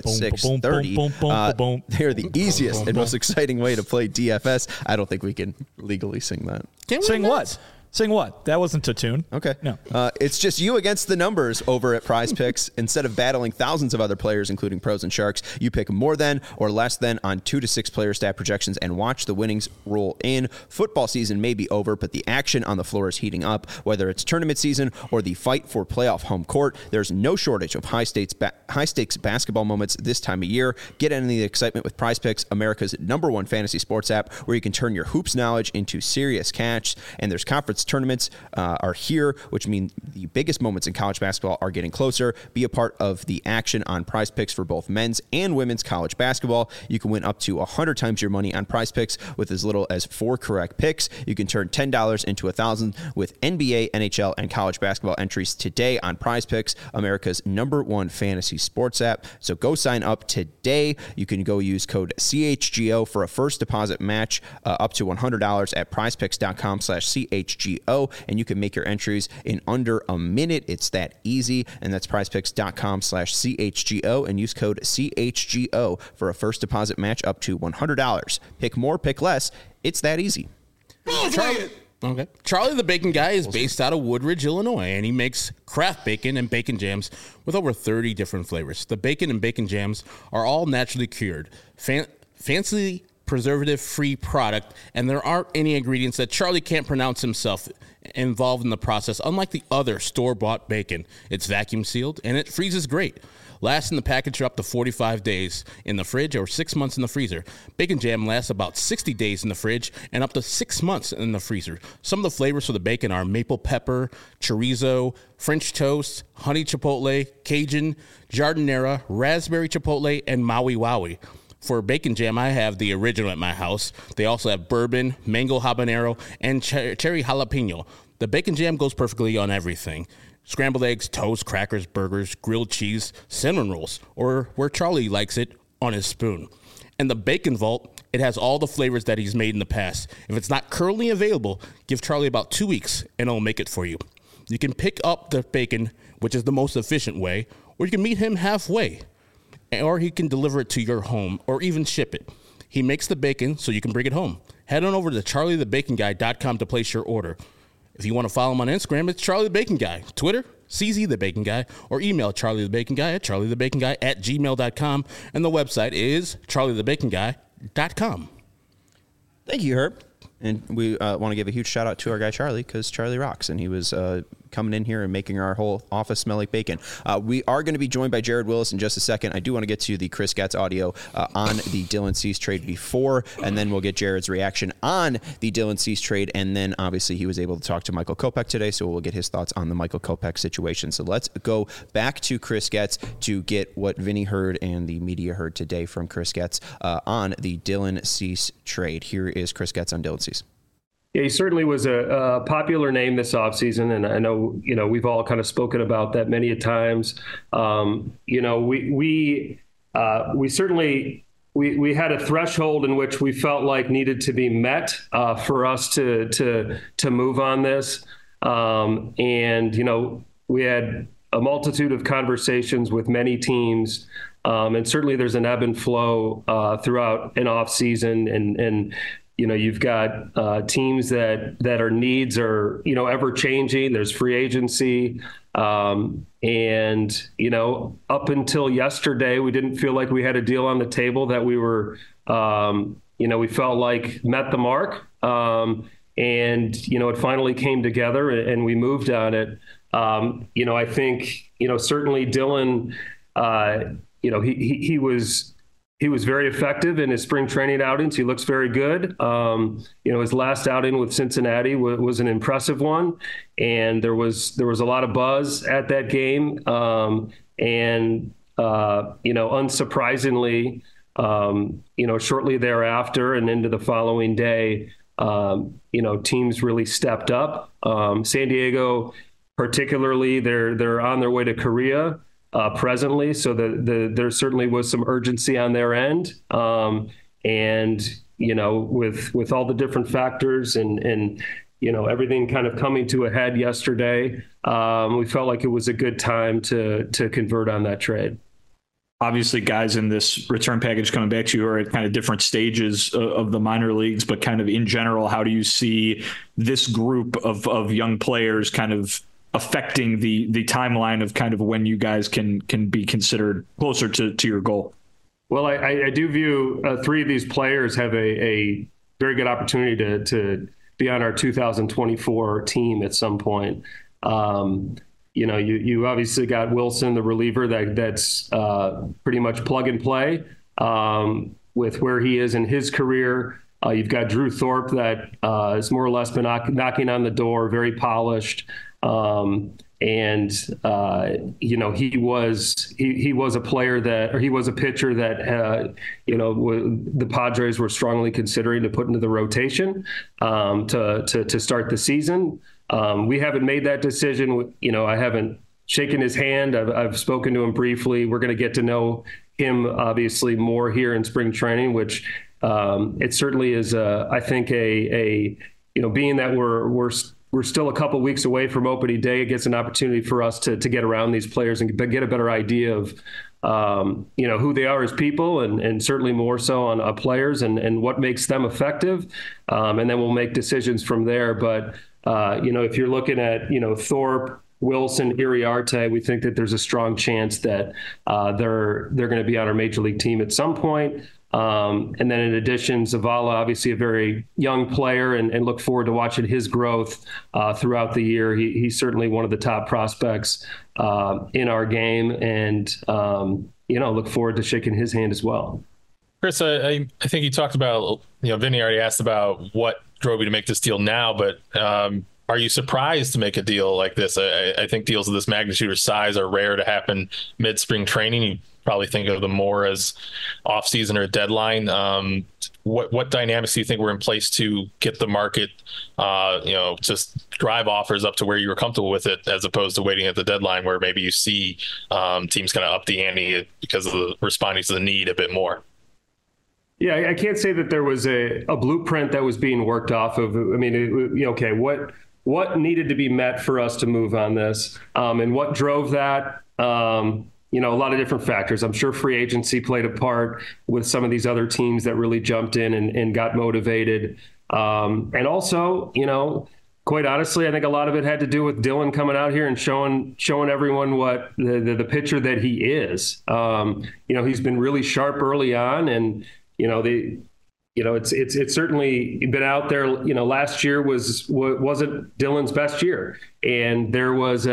6:30. They're the easiest and most exciting way to play DFS. I don't think we can legally sing that. Sing what? Sing what? That wasn't a tune. Okay. No. It's just you against the numbers over at Prize Picks. Instead of battling thousands of other players, including pros and sharks, you pick more than or less than on 2 to 6 player stat projections and watch the winnings roll in. Football season may be over, but the action on the floor is heating up. Whether it's tournament season or the fight for playoff home court, there's no shortage of high-stakes basketball moments this time of year. Get into the excitement with Prize Picks, America's #1 fantasy sports app, where you can turn your hoops knowledge into serious cash. And there's conference tournaments are here, which mean the biggest moments in college basketball are getting closer. Be a part of the action on Prize Picks for both men's and women's college basketball. You can win up to 100 times your money on Prize Picks with as little as 4 correct picks. You can turn $10 into $1,000 with NBA, NHL, and college basketball entries today on Prize Picks, America's #1 fantasy sports app. So go sign up today. You can go use code CHGO for a first deposit match up to $100 at prizepicks.com/CHGO, and you can make your entries in under a minute. It's that easy, and that's prizepicks.com/CHGO, and use code CHGO for a first deposit match up to $100. Pick more, pick less. It's that easy. Charlie the Bacon Guy is based out of Woodridge, Illinois, and he makes craft bacon and bacon jams with over 30 different flavors. The bacon and bacon jams are all naturally cured, fancy preservative-free product, and there aren't any ingredients that Charlie can't pronounce himself involved in the process, unlike the other store-bought bacon. It's vacuum-sealed, and it freezes great. Lasts in the package for up to 45 days in the fridge or 6 months in the freezer. Bacon jam lasts about 60 days in the fridge and up to 6 months in the freezer. Some of the flavors for the bacon are maple pepper, chorizo, French toast, honey chipotle, Cajun, jardinera, raspberry chipotle, and Maui Wowie. For bacon jam, I have the original at my house. They also have bourbon, mango habanero, and cherry jalapeno. The bacon jam goes perfectly on everything. Scrambled eggs, toast, crackers, burgers, grilled cheese, cinnamon rolls, or where Charlie likes it, on his spoon. And the Bacon Vault It has all the flavors that he's made in the past. If it's not currently available, give Charlie about 2 weeks and it'll make it for you. You can pick up the bacon, which is the most efficient way, or you can meet him halfway, or he can deliver it to your home or even ship it. He makes the bacon so you can bring it home. Head on over to charliethebaconguy.com to place your order. If you want to follow him on Instagram, it's Charlie the Bacon Guy. Twitter, CZ the Bacon Guy, or email charliethebaconguy at charliethebaconguy@gmail.com. And the website is charliethebaconguy.com. Thank you, Herb. And we want to give a huge shout out to our guy Charlie, because Charlie rocks, and he was coming in here and making our whole office smell like bacon. We are going to be joined by Jared Willis in just a second. I do want to get to the Chris Getz audio on the Dylan Cease trade before, and then we'll get Jared's reaction on the Dylan Cease trade. And then obviously he was able to talk to Michael Kopech today, so we'll get his thoughts on the Michael Kopech situation. So let's go back to Chris Getz to get what Vinny heard and the media heard today from Chris Getz on the Dylan Cease trade. Here is Chris Getz on Dylan Cease. Yeah, he certainly was a popular name this offseason, and I know, we've all kind of spoken about that many a times. We certainly had a threshold in which we felt like needed to be met for us to move on this. We had a multitude of conversations with many teams. And certainly there's an ebb and flow throughout an off season, and you've got teams that are needs are, ever changing. There's free agency. Up until yesterday, we didn't feel like we had a deal on the table that we were, we felt like met the mark. It finally came together and we moved on it. I think, certainly Dylan, he was very effective in his spring training outings. He looks very good. His last outing with Cincinnati was an impressive one, and there was a lot of buzz at that game. Unsurprisingly, shortly thereafter and into the following day, teams really stepped up. San Diego, particularly, they're on their way to Korea presently, so there certainly was some urgency on their end, with all the different factors and everything kind of coming to a head yesterday, we felt like it was a good time to convert on that trade. Obviously, guys in this return package coming back to you are at kind of different stages of the minor leagues, but kind of in general, how do you see this group of young players kind of affecting the timeline of kind of when you guys can be considered closer to your goal? Well, I do view three of these players have a very good opportunity to be on our 2024 team at some point. You obviously got Wilson, the reliever, that's pretty much plug and play with where he is in his career. You've got Drew Thorpe that has more or less been knocking on the door, very polished. He was a player he was a pitcher that, the Padres were strongly considering to put into the rotation to start the season. We haven't made that decision. I haven't shaken his hand. I've spoken to him briefly. We're going to get to know him obviously more here in spring training, which it certainly is, I think, being that we're still a couple weeks away from opening day, it gets an opportunity for us to get around these players and get a better idea of, who they are as people and certainly more so on players and what makes them effective. And then we'll make decisions from there. But, if you're looking at, Thorpe, Wilson, Iriarte, we think that there's a strong chance that they're going to be on our major league team at some point. And then in addition, Zavala, obviously a very young player, and look forward to watching his growth throughout the year. He's certainly one of the top prospects in our game, and look forward to shaking his hand as well. Chris, I think you talked about, Vinny already asked about what drove you to make this deal now, but are you surprised to make a deal like this? I think deals of this magnitude or size are rare to happen mid-spring training. You probably think of them more as off-season or a deadline. What dynamics do you think were in place to get the market, just drive offers up to where you were comfortable with it, as opposed to waiting at the deadline where maybe you see teams kind of up the ante because of the responding to the need a bit more? Yeah, I can't say that there was a blueprint that was being worked off of. I mean, okay, what needed to be met for us to move on this, and what drove that? A lot of different factors. I'm sure free agency played a part with some of these other teams that really jumped in and got motivated, and also, quite honestly, I think a lot of it had to do with Dylan coming out here and showing everyone what the pitcher that he is. He's been really sharp early on, and it's certainly been out there. Last year wasn't Dylan's best year, and there was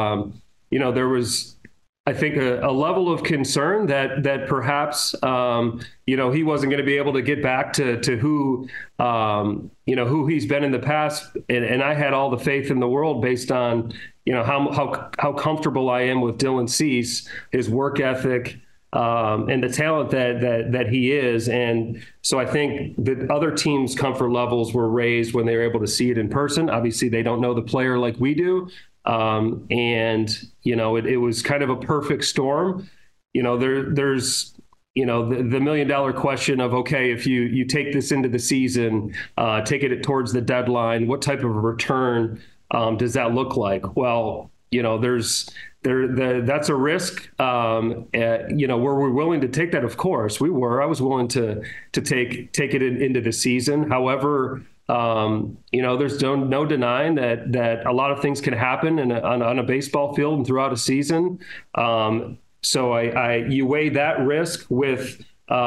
I think a level of concern that perhaps he wasn't going to be able to get back to who who he's been in the past, and I had all the faith in the world based on how comfortable I am with Dylan Cease, his work ethic, and the talent that he is. And so I think the other teams' comfort levels were raised when they were able to see it in person. Obviously, they don't know the player like we do. It was kind of a perfect storm. There's the $1 million question of, okay, if you take this into the season, take it towards the deadline, what type of a return does that look like? Well, that's a risk. Were we willing to take that? Of course we were. I was willing to take it into the season. However, there's no denying that a lot of things can happen on a baseball field and throughout a season. So you weigh that risk with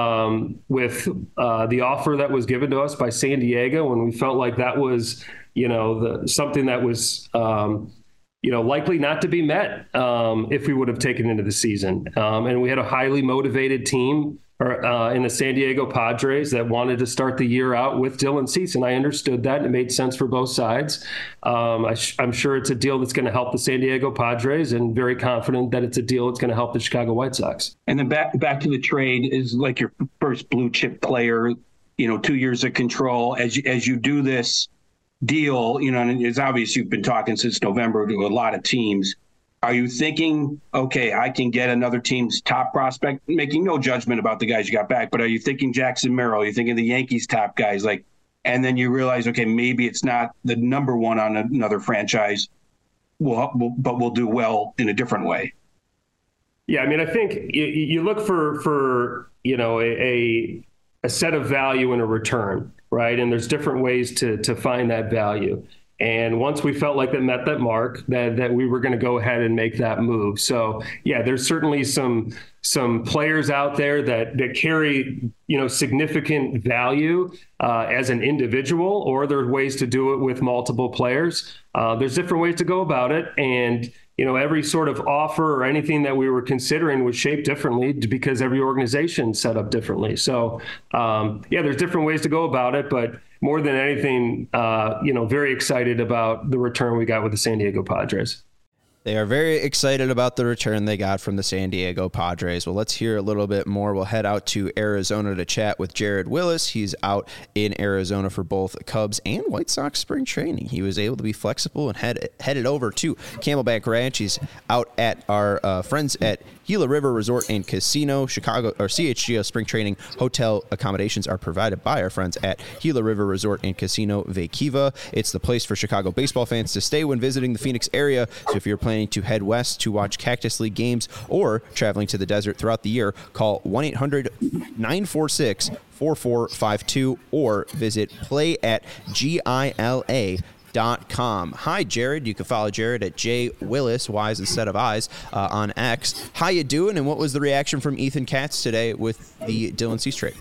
the offer that was given to us by San Diego, and we felt like that was something that was likely not to be met if we would have taken into the season. And we had a highly motivated team in the San Diego Padres that wanted to start the year out with Dylan Cease, and I understood that. It made sense for both sides. I'm sure it's a deal that's going to help the San Diego Padres, and very confident that it's a deal that's going to help the Chicago White Sox. And then back to the trade is like your first blue chip player, 2 years of control. As you do this deal, and it's obvious you've been talking since November to a lot of teams. Are you thinking, okay, I can get another team's top prospect, making no judgment about the guys you got back, but are you thinking Jackson Merrill? Are you thinking the Yankees' top guys? And then you realize, okay, maybe it's not the number one on another franchise, but we'll do well in a different way. Yeah, I mean, I think you look for a set of value in a return, right? And there's different ways to find that value. And once we felt like that met that mark, that we were going to go ahead and make that move. So yeah, there's certainly some players out there that carry significant value as an individual, or there are ways to do it with multiple players. There's different ways to go about it, and every sort of offer or anything that we were considering was shaped differently because every organization set up differently. So there's different ways to go about it, but more than anything, very excited about the return we got with the San Diego Padres. They are very excited about the return they got from the San Diego Padres. Well, let's hear a little bit more. We'll head out to Arizona to chat with Jared Willis. He's out in Arizona for both Cubs and White Sox spring training. He was able to be flexible and headed over to Camelback Ranch. He's out at our friends at Gila River Resort and Casino. Chicago or CHGO spring training hotel accommodations are provided by our friends at Gila River Resort and Casino Vaquiva. It's the place for Chicago baseball fans to stay when visiting the Phoenix area. So if you're planning to head west to watch Cactus League games or traveling to the desert throughout the year, call 1-800-946-4452 or visit playatgila.com. Hi, Jared. You can follow Jared at J Willis, Y's instead of I's, on X. How you doing, and what was the reaction from Ethan Katz today with the Dylan Cease trade?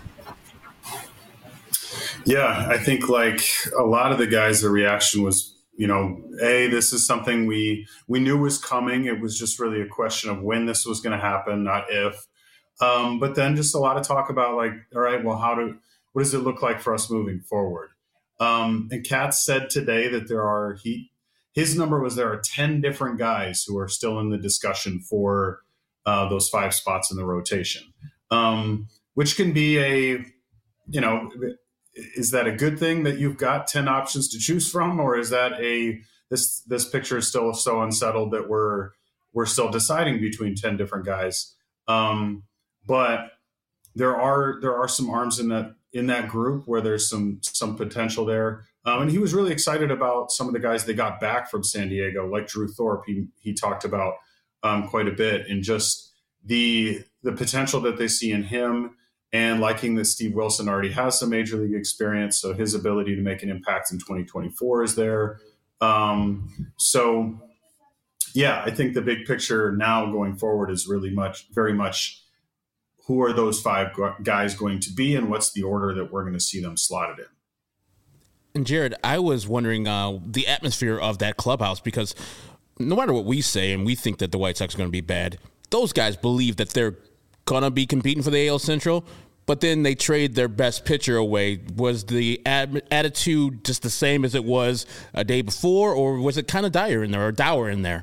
Yeah, I think like a lot of the guys, the reaction was, this is something we knew was coming. It was just really a question of when this was going to happen, not if. But then just a lot of talk about like, all right, well, what does it look like for us moving forward? And Katz said today that his number was there are 10 different guys who are still in the discussion for those 5 spots in the rotation, which can be is that a good thing that you've got 10 options to choose from, or is that this picture is still so unsettled that we're still deciding between 10 different guys? But there are some arms in that group where there's some potential there. And he was really excited about some of the guys they got back from San Diego, like Drew Thorpe. He talked about quite a bit, and just the potential that they see in him, and liking that Steve Wilson already has some major league experience, so his ability to make an impact in 2024 is there. So yeah, I think the big picture now going forward is very much who are those 5 guys going to be, and what's the order that we're going to see them slotted in. And Jared, I was wondering the atmosphere of that clubhouse, because no matter what we say and we think that the White Sox are going to be bad, those guys believe that they're going to be competing for the AL Central, but then they trade their best pitcher away. Was the attitude just the same as it was a day before, or was it kind of dour in there?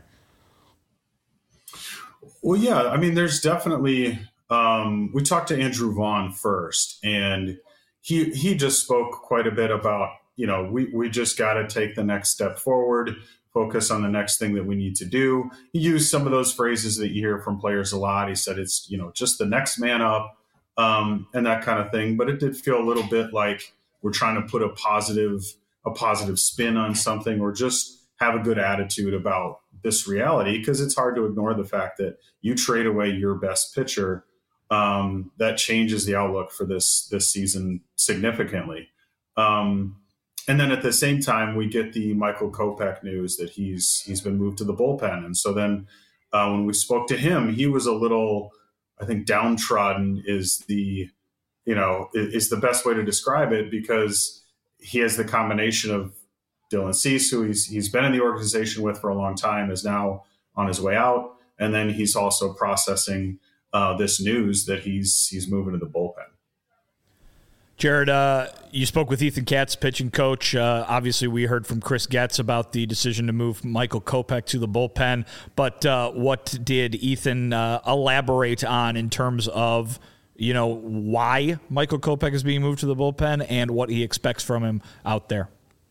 Well, yeah, I mean, there's definitely we talked to Andrew Vaughn first, and he just spoke quite a bit about, we just got to take the next step forward, focus on the next thing that we need to do. He used some of those phrases that you hear from players a lot. He said it's, just the next man up, and that kind of thing. But it did feel a little bit like we're trying to put a positive spin on something, or just have a good attitude about this reality, because it's hard to ignore the fact that you trade away your best pitcher. That changes the outlook for this season significantly. And then at the same time, we get the Michael Kopech news that he's been moved to the bullpen. And so then when we spoke to him, he was a little, I think, downtrodden is the best way to describe it, because he has the combination of Dylan Cease, who he's been in the organization with for a long time, is now on his way out. And then he's also processing this news that he's moving to the bullpen. Jared, you spoke with Ethan Katz, pitching coach. Obviously, we heard from Chris Getz about the decision to move Michael Kopech to the bullpen. But what did Ethan elaborate on in terms of, why Michael Kopech is being moved to the bullpen and what he expects from him out there?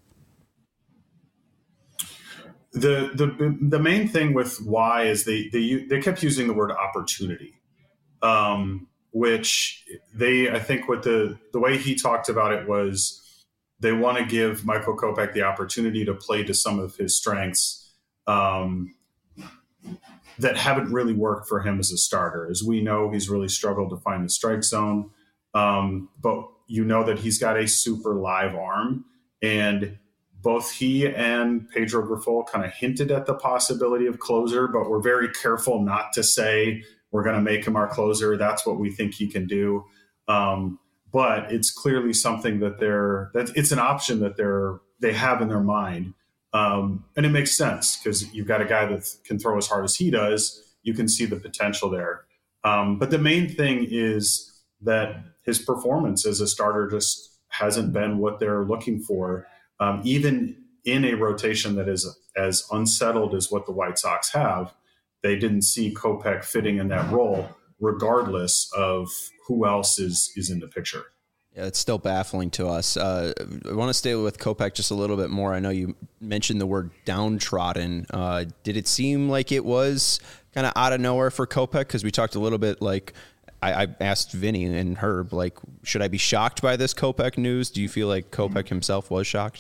The main thing with why is they kept using the word opportunity. Which I think what the way he talked about it was they want to give Michael Kopech the opportunity to play to some of his strengths that haven't really worked for him as a starter. As we know, he's really struggled to find the strike zone, but that he's got a super live arm, and both he and Pedro Grifol kind of hinted at the possibility of closer, but we're very careful not to say we're going to make him our closer. That's what we think he can do. But it's clearly something that it's an option that they have in their mind. And it makes sense, because you've got a guy that can throw as hard as he does. You can see the potential there. But the main thing is that his performance as a starter just hasn't been what they're looking for. Even in a rotation that is as unsettled as what the White Sox have, they didn't see Kopech fitting in that role, regardless of who else is in the picture. Yeah, it's still baffling to us. I want to stay with Kopech just a little bit more. I know you mentioned the word downtrodden. Did it seem like it was kind of out of nowhere for Kopech? Because we talked a little bit, like I asked Vinny and Herb, like, should I be shocked by this Kopech news? Do you feel like Kopech himself was shocked?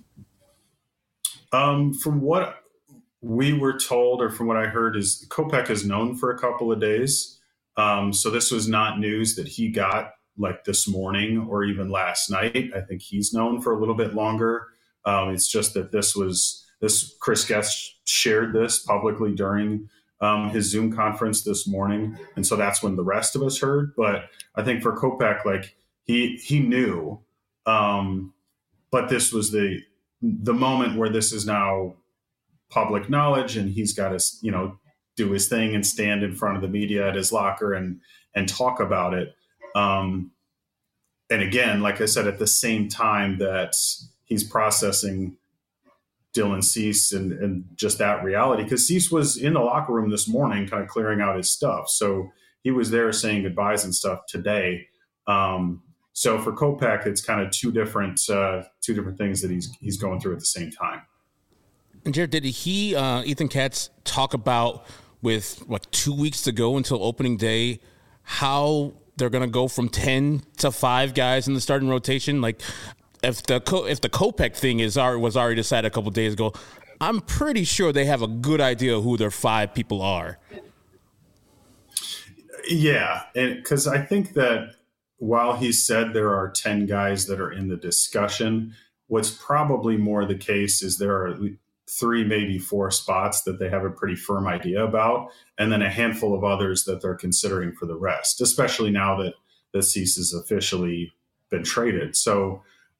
From what we were told, or from what I heard, is Kopech is known for a couple of days. So this was not news that he got like this morning or even last night. I think he's known for a little bit longer. It's just that this Chris Getz shared this publicly during his Zoom conference this morning. And so that's when the rest of us heard. But I think for Kopech, like he knew, but this was the moment where this is now public knowledge, and he's got to, do his thing and stand in front of the media at his locker and talk about it. And again, like I said, at the same time that he's processing Dylan Cease and just that reality, because Cease was in the locker room this morning, kind of clearing out his stuff. So he was there saying goodbyes and stuff today. So for Kopech, it's kind of two different things that he's going through at the same time. And Jared, did Ethan Katz talk about, with 2 weeks to go until opening day, how they're going to go from 10 to 5 guys in the starting rotation. Like if the Kopech thing was already decided a couple of days ago, I'm pretty sure they have a good idea who their 5 people are. Yeah, and because I think that while he said there are 10 guys that are in the discussion, what's probably more the case is there are 3, maybe 4 spots that they have a pretty firm idea about, and then a handful of others that they're considering for the rest, especially now that Cease has officially been traded. So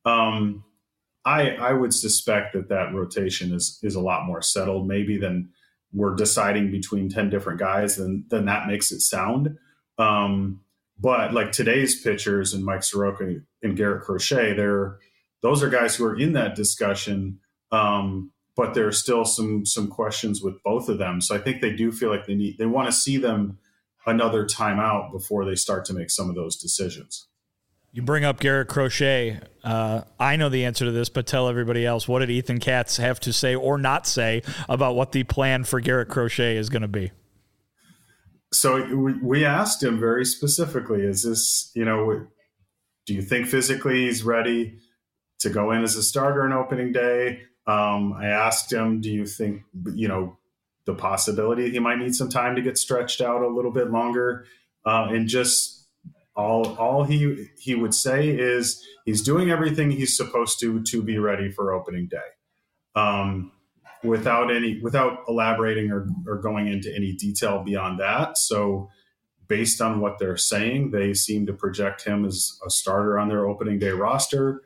I would suspect that rotation is a lot more settled maybe than we're deciding between 10 different guys, then that makes it sound. But like today's pitchers and Mike Soroka and Garrett Crochet, those are guys who are in that discussion. But there are still some questions with both of them. So I think they do feel like they want to see them another time out before they start to make some of those decisions. You bring up Garrett Crochet. I know the answer to this, but tell everybody else. What did Ethan Katz have to say or not say about what the plan for Garrett Crochet is going to be? So we asked him very specifically, is this, do you think physically he's ready to go in as a starter on opening day? I asked him, do you think, the possibility he might need some time to get stretched out a little bit longer? And just all he would say is he's doing everything he's supposed to be ready for opening day. Without elaborating or going into any detail beyond that. So based on what they're saying, they seem to project him as a starter on their opening day roster.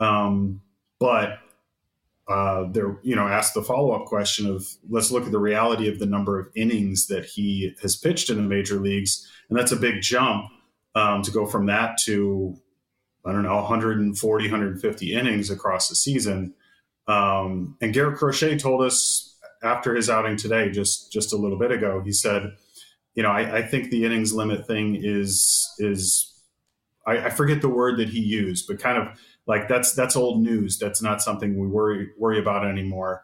But they're, asked the follow-up question of, let's look at the reality of the number of innings that he has pitched in the major leagues. And that's a big jump to go from that to, 140, 150 innings across the season. And Garrett Crochet told us after his outing today, just a little bit ago, he said, I think the innings limit thing is I forget the word that he used, but kind of like that's old news. That's not something we worry about anymore.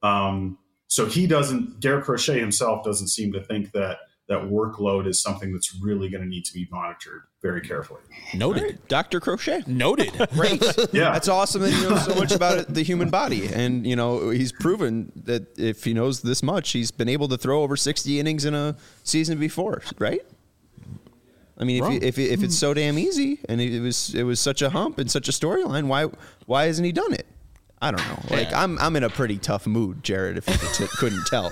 So Garrett Crochet himself doesn't seem to think that workload is something that's really going to need to be monitored very carefully. Noted. Right. Dr. Crochet. Noted. Great. Yeah. That's awesome that he knows so much about the human body. And, he's proven that if he knows this much, he's been able to throw over 60 innings in a season before, right? I mean, if it's so damn easy and it was such a hump and such a storyline, why hasn't he done it? I don't know. Like I'm in a pretty tough mood, Jared, if you couldn't tell.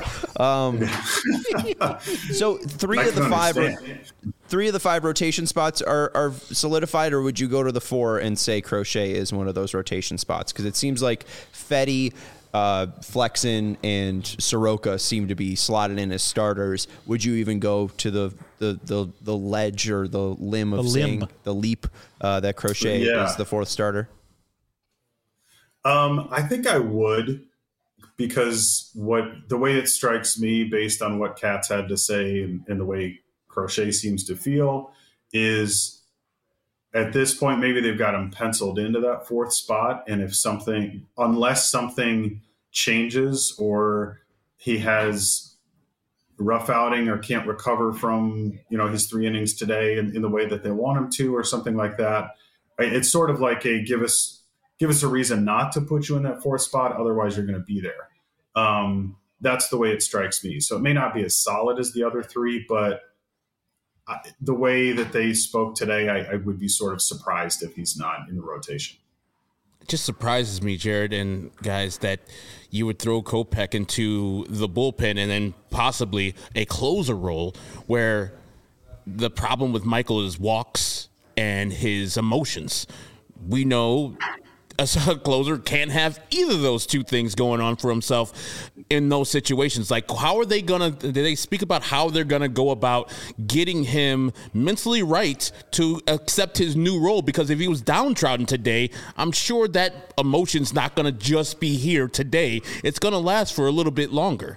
So three of the five rotation spots are solidified, or would you go to the 4 and say Crochet is one of those rotation spots? Because it seems like Fedde, Flexen, and Soroka seem to be slotted in as starters. Would you even go to the ledge or the limb of saying the leap that Crochet is the 4th starter? I think I would, because the way it strikes me based on what Katz had to say and the way Crochet seems to feel is at this point, maybe they've got him penciled into that 4th spot. And unless something changes or he has rough outing or can't recover from, his 3 innings today in the way that they want him to, or something like that, it's sort of like a give us a reason not to put you in that 4th spot. Otherwise, you're going to be there. That's the way it strikes me. So it may not be as solid as the other 3, but the way that they spoke today, I would be sort of surprised if he's not in the rotation. It just surprises me, Jared and guys, that you would throw Kopech into the bullpen and then possibly a closer role where the problem with Michael is walks and his emotions. We know a closer can't have either of those 2 things going on for himself in those situations. Like, how are they did they speak about how they're going to go about getting him mentally right to accept his new role? Because if he was downtrodden today, I'm sure that emotion's not going to just be here today. It's going to last for a little bit longer.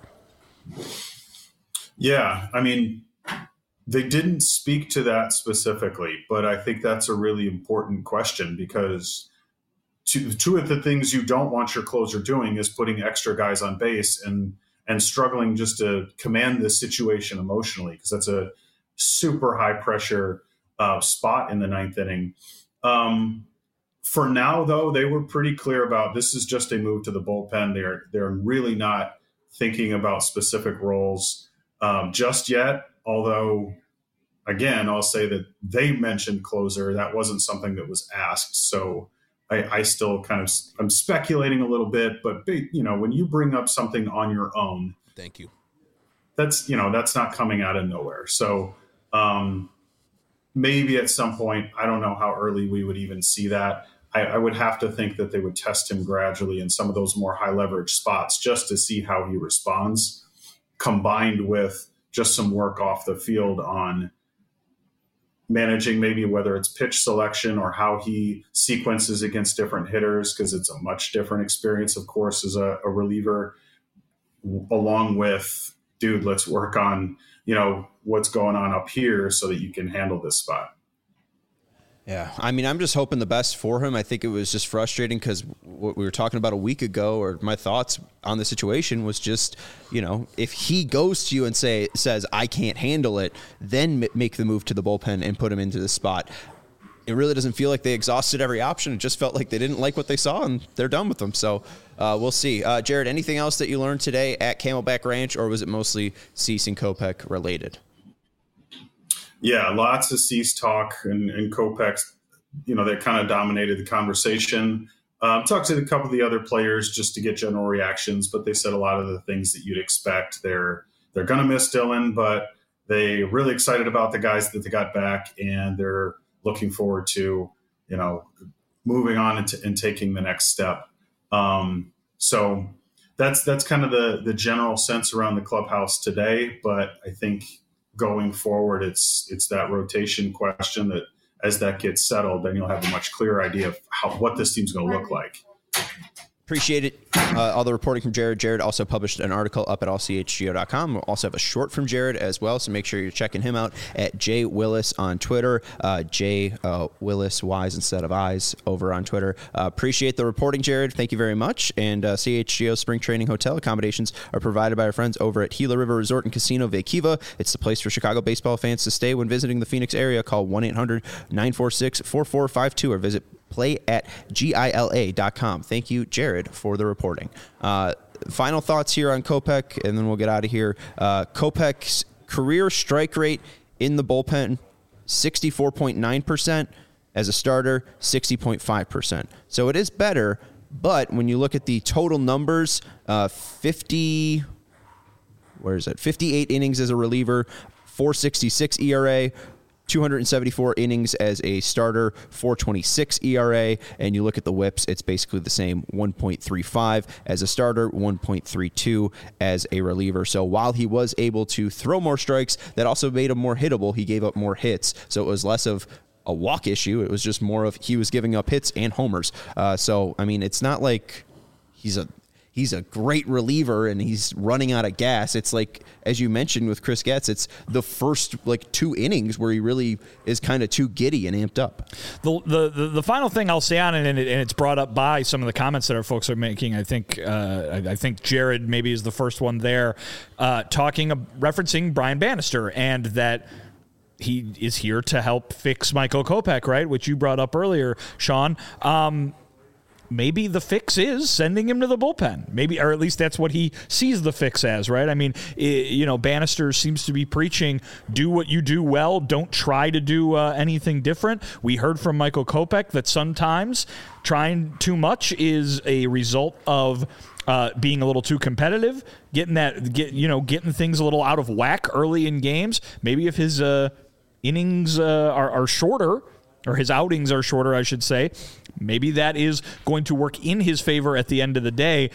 Yeah. I mean, they didn't speak to that specifically, but I think that's a really important question, because two of the things you don't want your closer doing is putting extra guys on base and struggling just to command the situation emotionally, because that's a super high pressure spot in the ninth inning. For now, though, they were pretty clear about this is just a move to the bullpen. They're really not thinking about specific roles just yet. Although, again, I'll say that they mentioned closer. That wasn't something that was asked. So I still I'm speculating a little bit. But, when you bring up something on your own, thank you. That's not coming out of nowhere. So maybe at some point, I don't know how early we would even see that. I would have to think that they would test him gradually in some of those more high leverage spots just to see how he responds, combined with just some work off the field on managing maybe whether it's pitch selection or how he sequences against different hitters, because it's a much different experience, of course, as a reliever, along with, dude, let's work on, what's going on up here so that you can handle this spot. Yeah, I mean, I'm just hoping the best for him. I think it was just frustrating because what we were talking about a week ago, or my thoughts on the situation was just, if he goes to you and says, I can't handle it, then make the move to the bullpen and put him into the spot. It really doesn't feel like they exhausted every option. It just felt like they didn't like what they saw and they're done with them. So we'll see. Jared, anything else that you learned today at Camelback Ranch, or was it mostly Cease and Kopech related? Yeah, lots of Cease talk and Kopech, they kind of dominated the conversation. Talked to a couple of the other players just to get general reactions, but they said a lot of the things that you'd expect. They're going to miss Dylan, but they're really excited about the guys that they got back, and they're looking forward to, moving on and taking the next step. So that's kind of the general sense around the clubhouse today. But I think going forward, it's that rotation question that as that gets settled, then you'll have a much clearer idea of what this team's going to look like. Appreciate it. All the reporting from Jared. Jared also published an article up at allchgo.com. We'll also have a short from Jared as well, so make sure you're checking him out at J Willis on Twitter. J Willis, Y's instead of I's, over on Twitter. Appreciate the reporting, Jared. Thank you very much. And CHGO Spring Training Hotel accommodations are provided by our friends over at Gila River Resort and Casino Vaquiva. It's the place for Chicago baseball fans to stay when visiting the Phoenix area. Call 1-800-946-4452 or visit play@gila.com. Thank you, Jared, for the reporting. Final thoughts here on Kopech, and then we'll get out of here. Kopech's career strike rate in the bullpen, 64.9%. As a starter, 60.5%. So it is better, but when you look at the total numbers, 58 innings as a reliever, 4.66 ERA, 274 innings as a starter, 4.26 ERA, and you look at the whips, it's basically the same, 1.35 as a starter, 1.32 as a reliever. So while he was able to throw more strikes, that also made him more hittable. He gave up more hits, so it was less of a walk issue. It was just more of he was giving up hits and homers. So, I mean, it's not like he's a great reliever and he's running out of gas. It's like, as you mentioned with Chris Getz, it's the first 2 innings where he really is kind of too giddy and amped up. The final thing I'll say on it, and it's brought up by some of the comments that our folks are making. I think Jared maybe is the first one there, referencing Brian Bannister, and that he is here to help fix Michael Kopech, right? Which you brought up earlier, Sean. Maybe the fix is sending him to the bullpen. Maybe, or at least that's what he sees the fix as, right? I mean, Bannister seems to be preaching, do what you do well. Don't try to do anything different. We heard from Michael Kopech that sometimes trying too much is a result of being a little too competitive, getting things a little out of whack early in games. Maybe if his innings are shorter, or his outings are shorter, I should say, maybe that is going to work in his favor at the end of the day.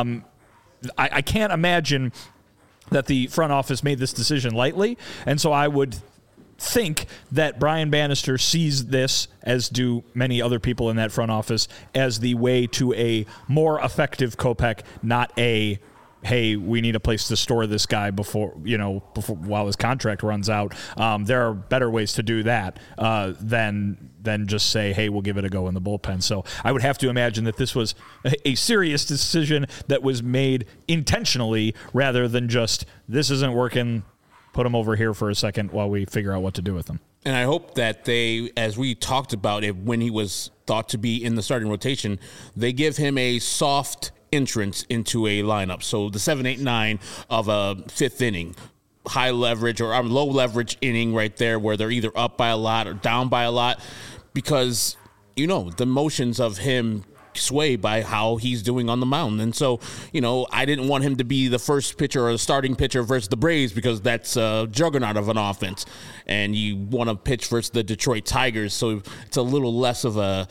I can't imagine that the front office made this decision lightly, and so I would think that Brian Bannister sees this, as do many other people in that front office, as the way to a more effective Kopech, not a, hey, we need a place to store this guy before while his contract runs out. There are better ways to do that than just say, hey, we'll give it a go in the bullpen. So I would have to imagine that this was a serious decision that was made intentionally rather than just, this isn't working, put them over here for a second while we figure out what to do with them. And I hope that they, as we talked about it when he was thought to be in the starting rotation, they give him a soft entrance into a lineup. So the 7, 8, 9 of a fifth inning, high leverage or low leverage inning right there where they're either up by a lot or down by a lot, because, the motions of him sway by how he's doing on the mound. And so, I didn't want him to be the first pitcher or the starting pitcher versus the Braves, because that's a juggernaut of an offense. And you want to pitch versus the Detroit Tigers. So it's a little less of a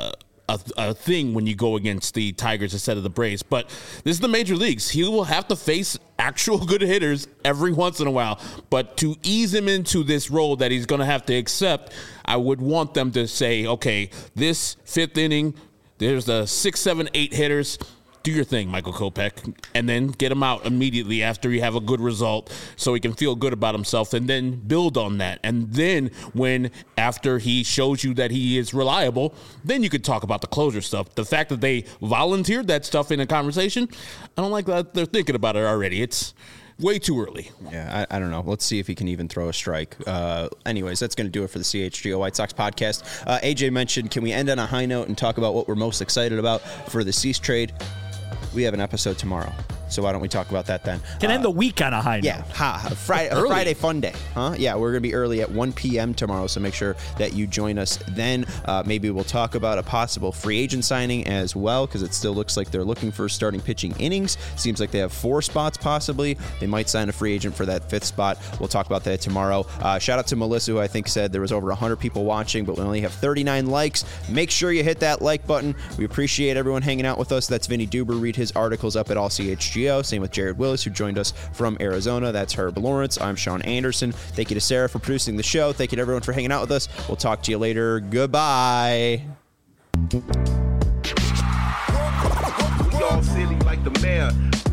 thing when you go against the Tigers instead of the Braves. But this is the major leagues. He will have to face actual good hitters every once in a while. But to ease him into this role that he's going to have to accept, I would want them to say, okay, this fifth inning, there's the 6, 7, 8 hitters. Do your thing, Michael Kopech, and then get him out immediately after you have a good result so he can feel good about himself, and then build on that. And then after he shows you that he is reliable, then you could talk about the closer stuff. The fact that they volunteered that stuff in a conversation, I don't like that they're thinking about it already. It's way too early. Yeah, I don't know. Let's see if he can even throw a strike. Anyways, that's going to do it for the CHGO White Sox podcast. AJ mentioned, can we end on a high note and talk about what we're most excited about for the Cease trade? We have an episode tomorrow, so why don't we talk about that then? Can end the week on a high note. Yeah, Friday fun day. Huh? Yeah, we're going to be early at 1 p.m. tomorrow, so make sure that you join us then. Maybe we'll talk about a possible free agent signing as well, because it still looks like they're looking for starting pitching innings. Seems like they have 4 spots possibly. They might sign a free agent for that 5th spot. We'll talk about that tomorrow. Shout out to Melissa, who I think said there was over 100 people watching, but we only have 39 likes. Make sure you hit that like button. We appreciate everyone hanging out with us. That's Vinny Duber. Read his articles up at All CHGO. Same with Jared Willis, who joined us from Arizona. That's Herb Lawrence. I'm Sean Anderson. Thank you to Sarah for producing the show. Thank you to everyone for hanging out with us. We'll talk to you later. Goodbye. We all silly like the mayor.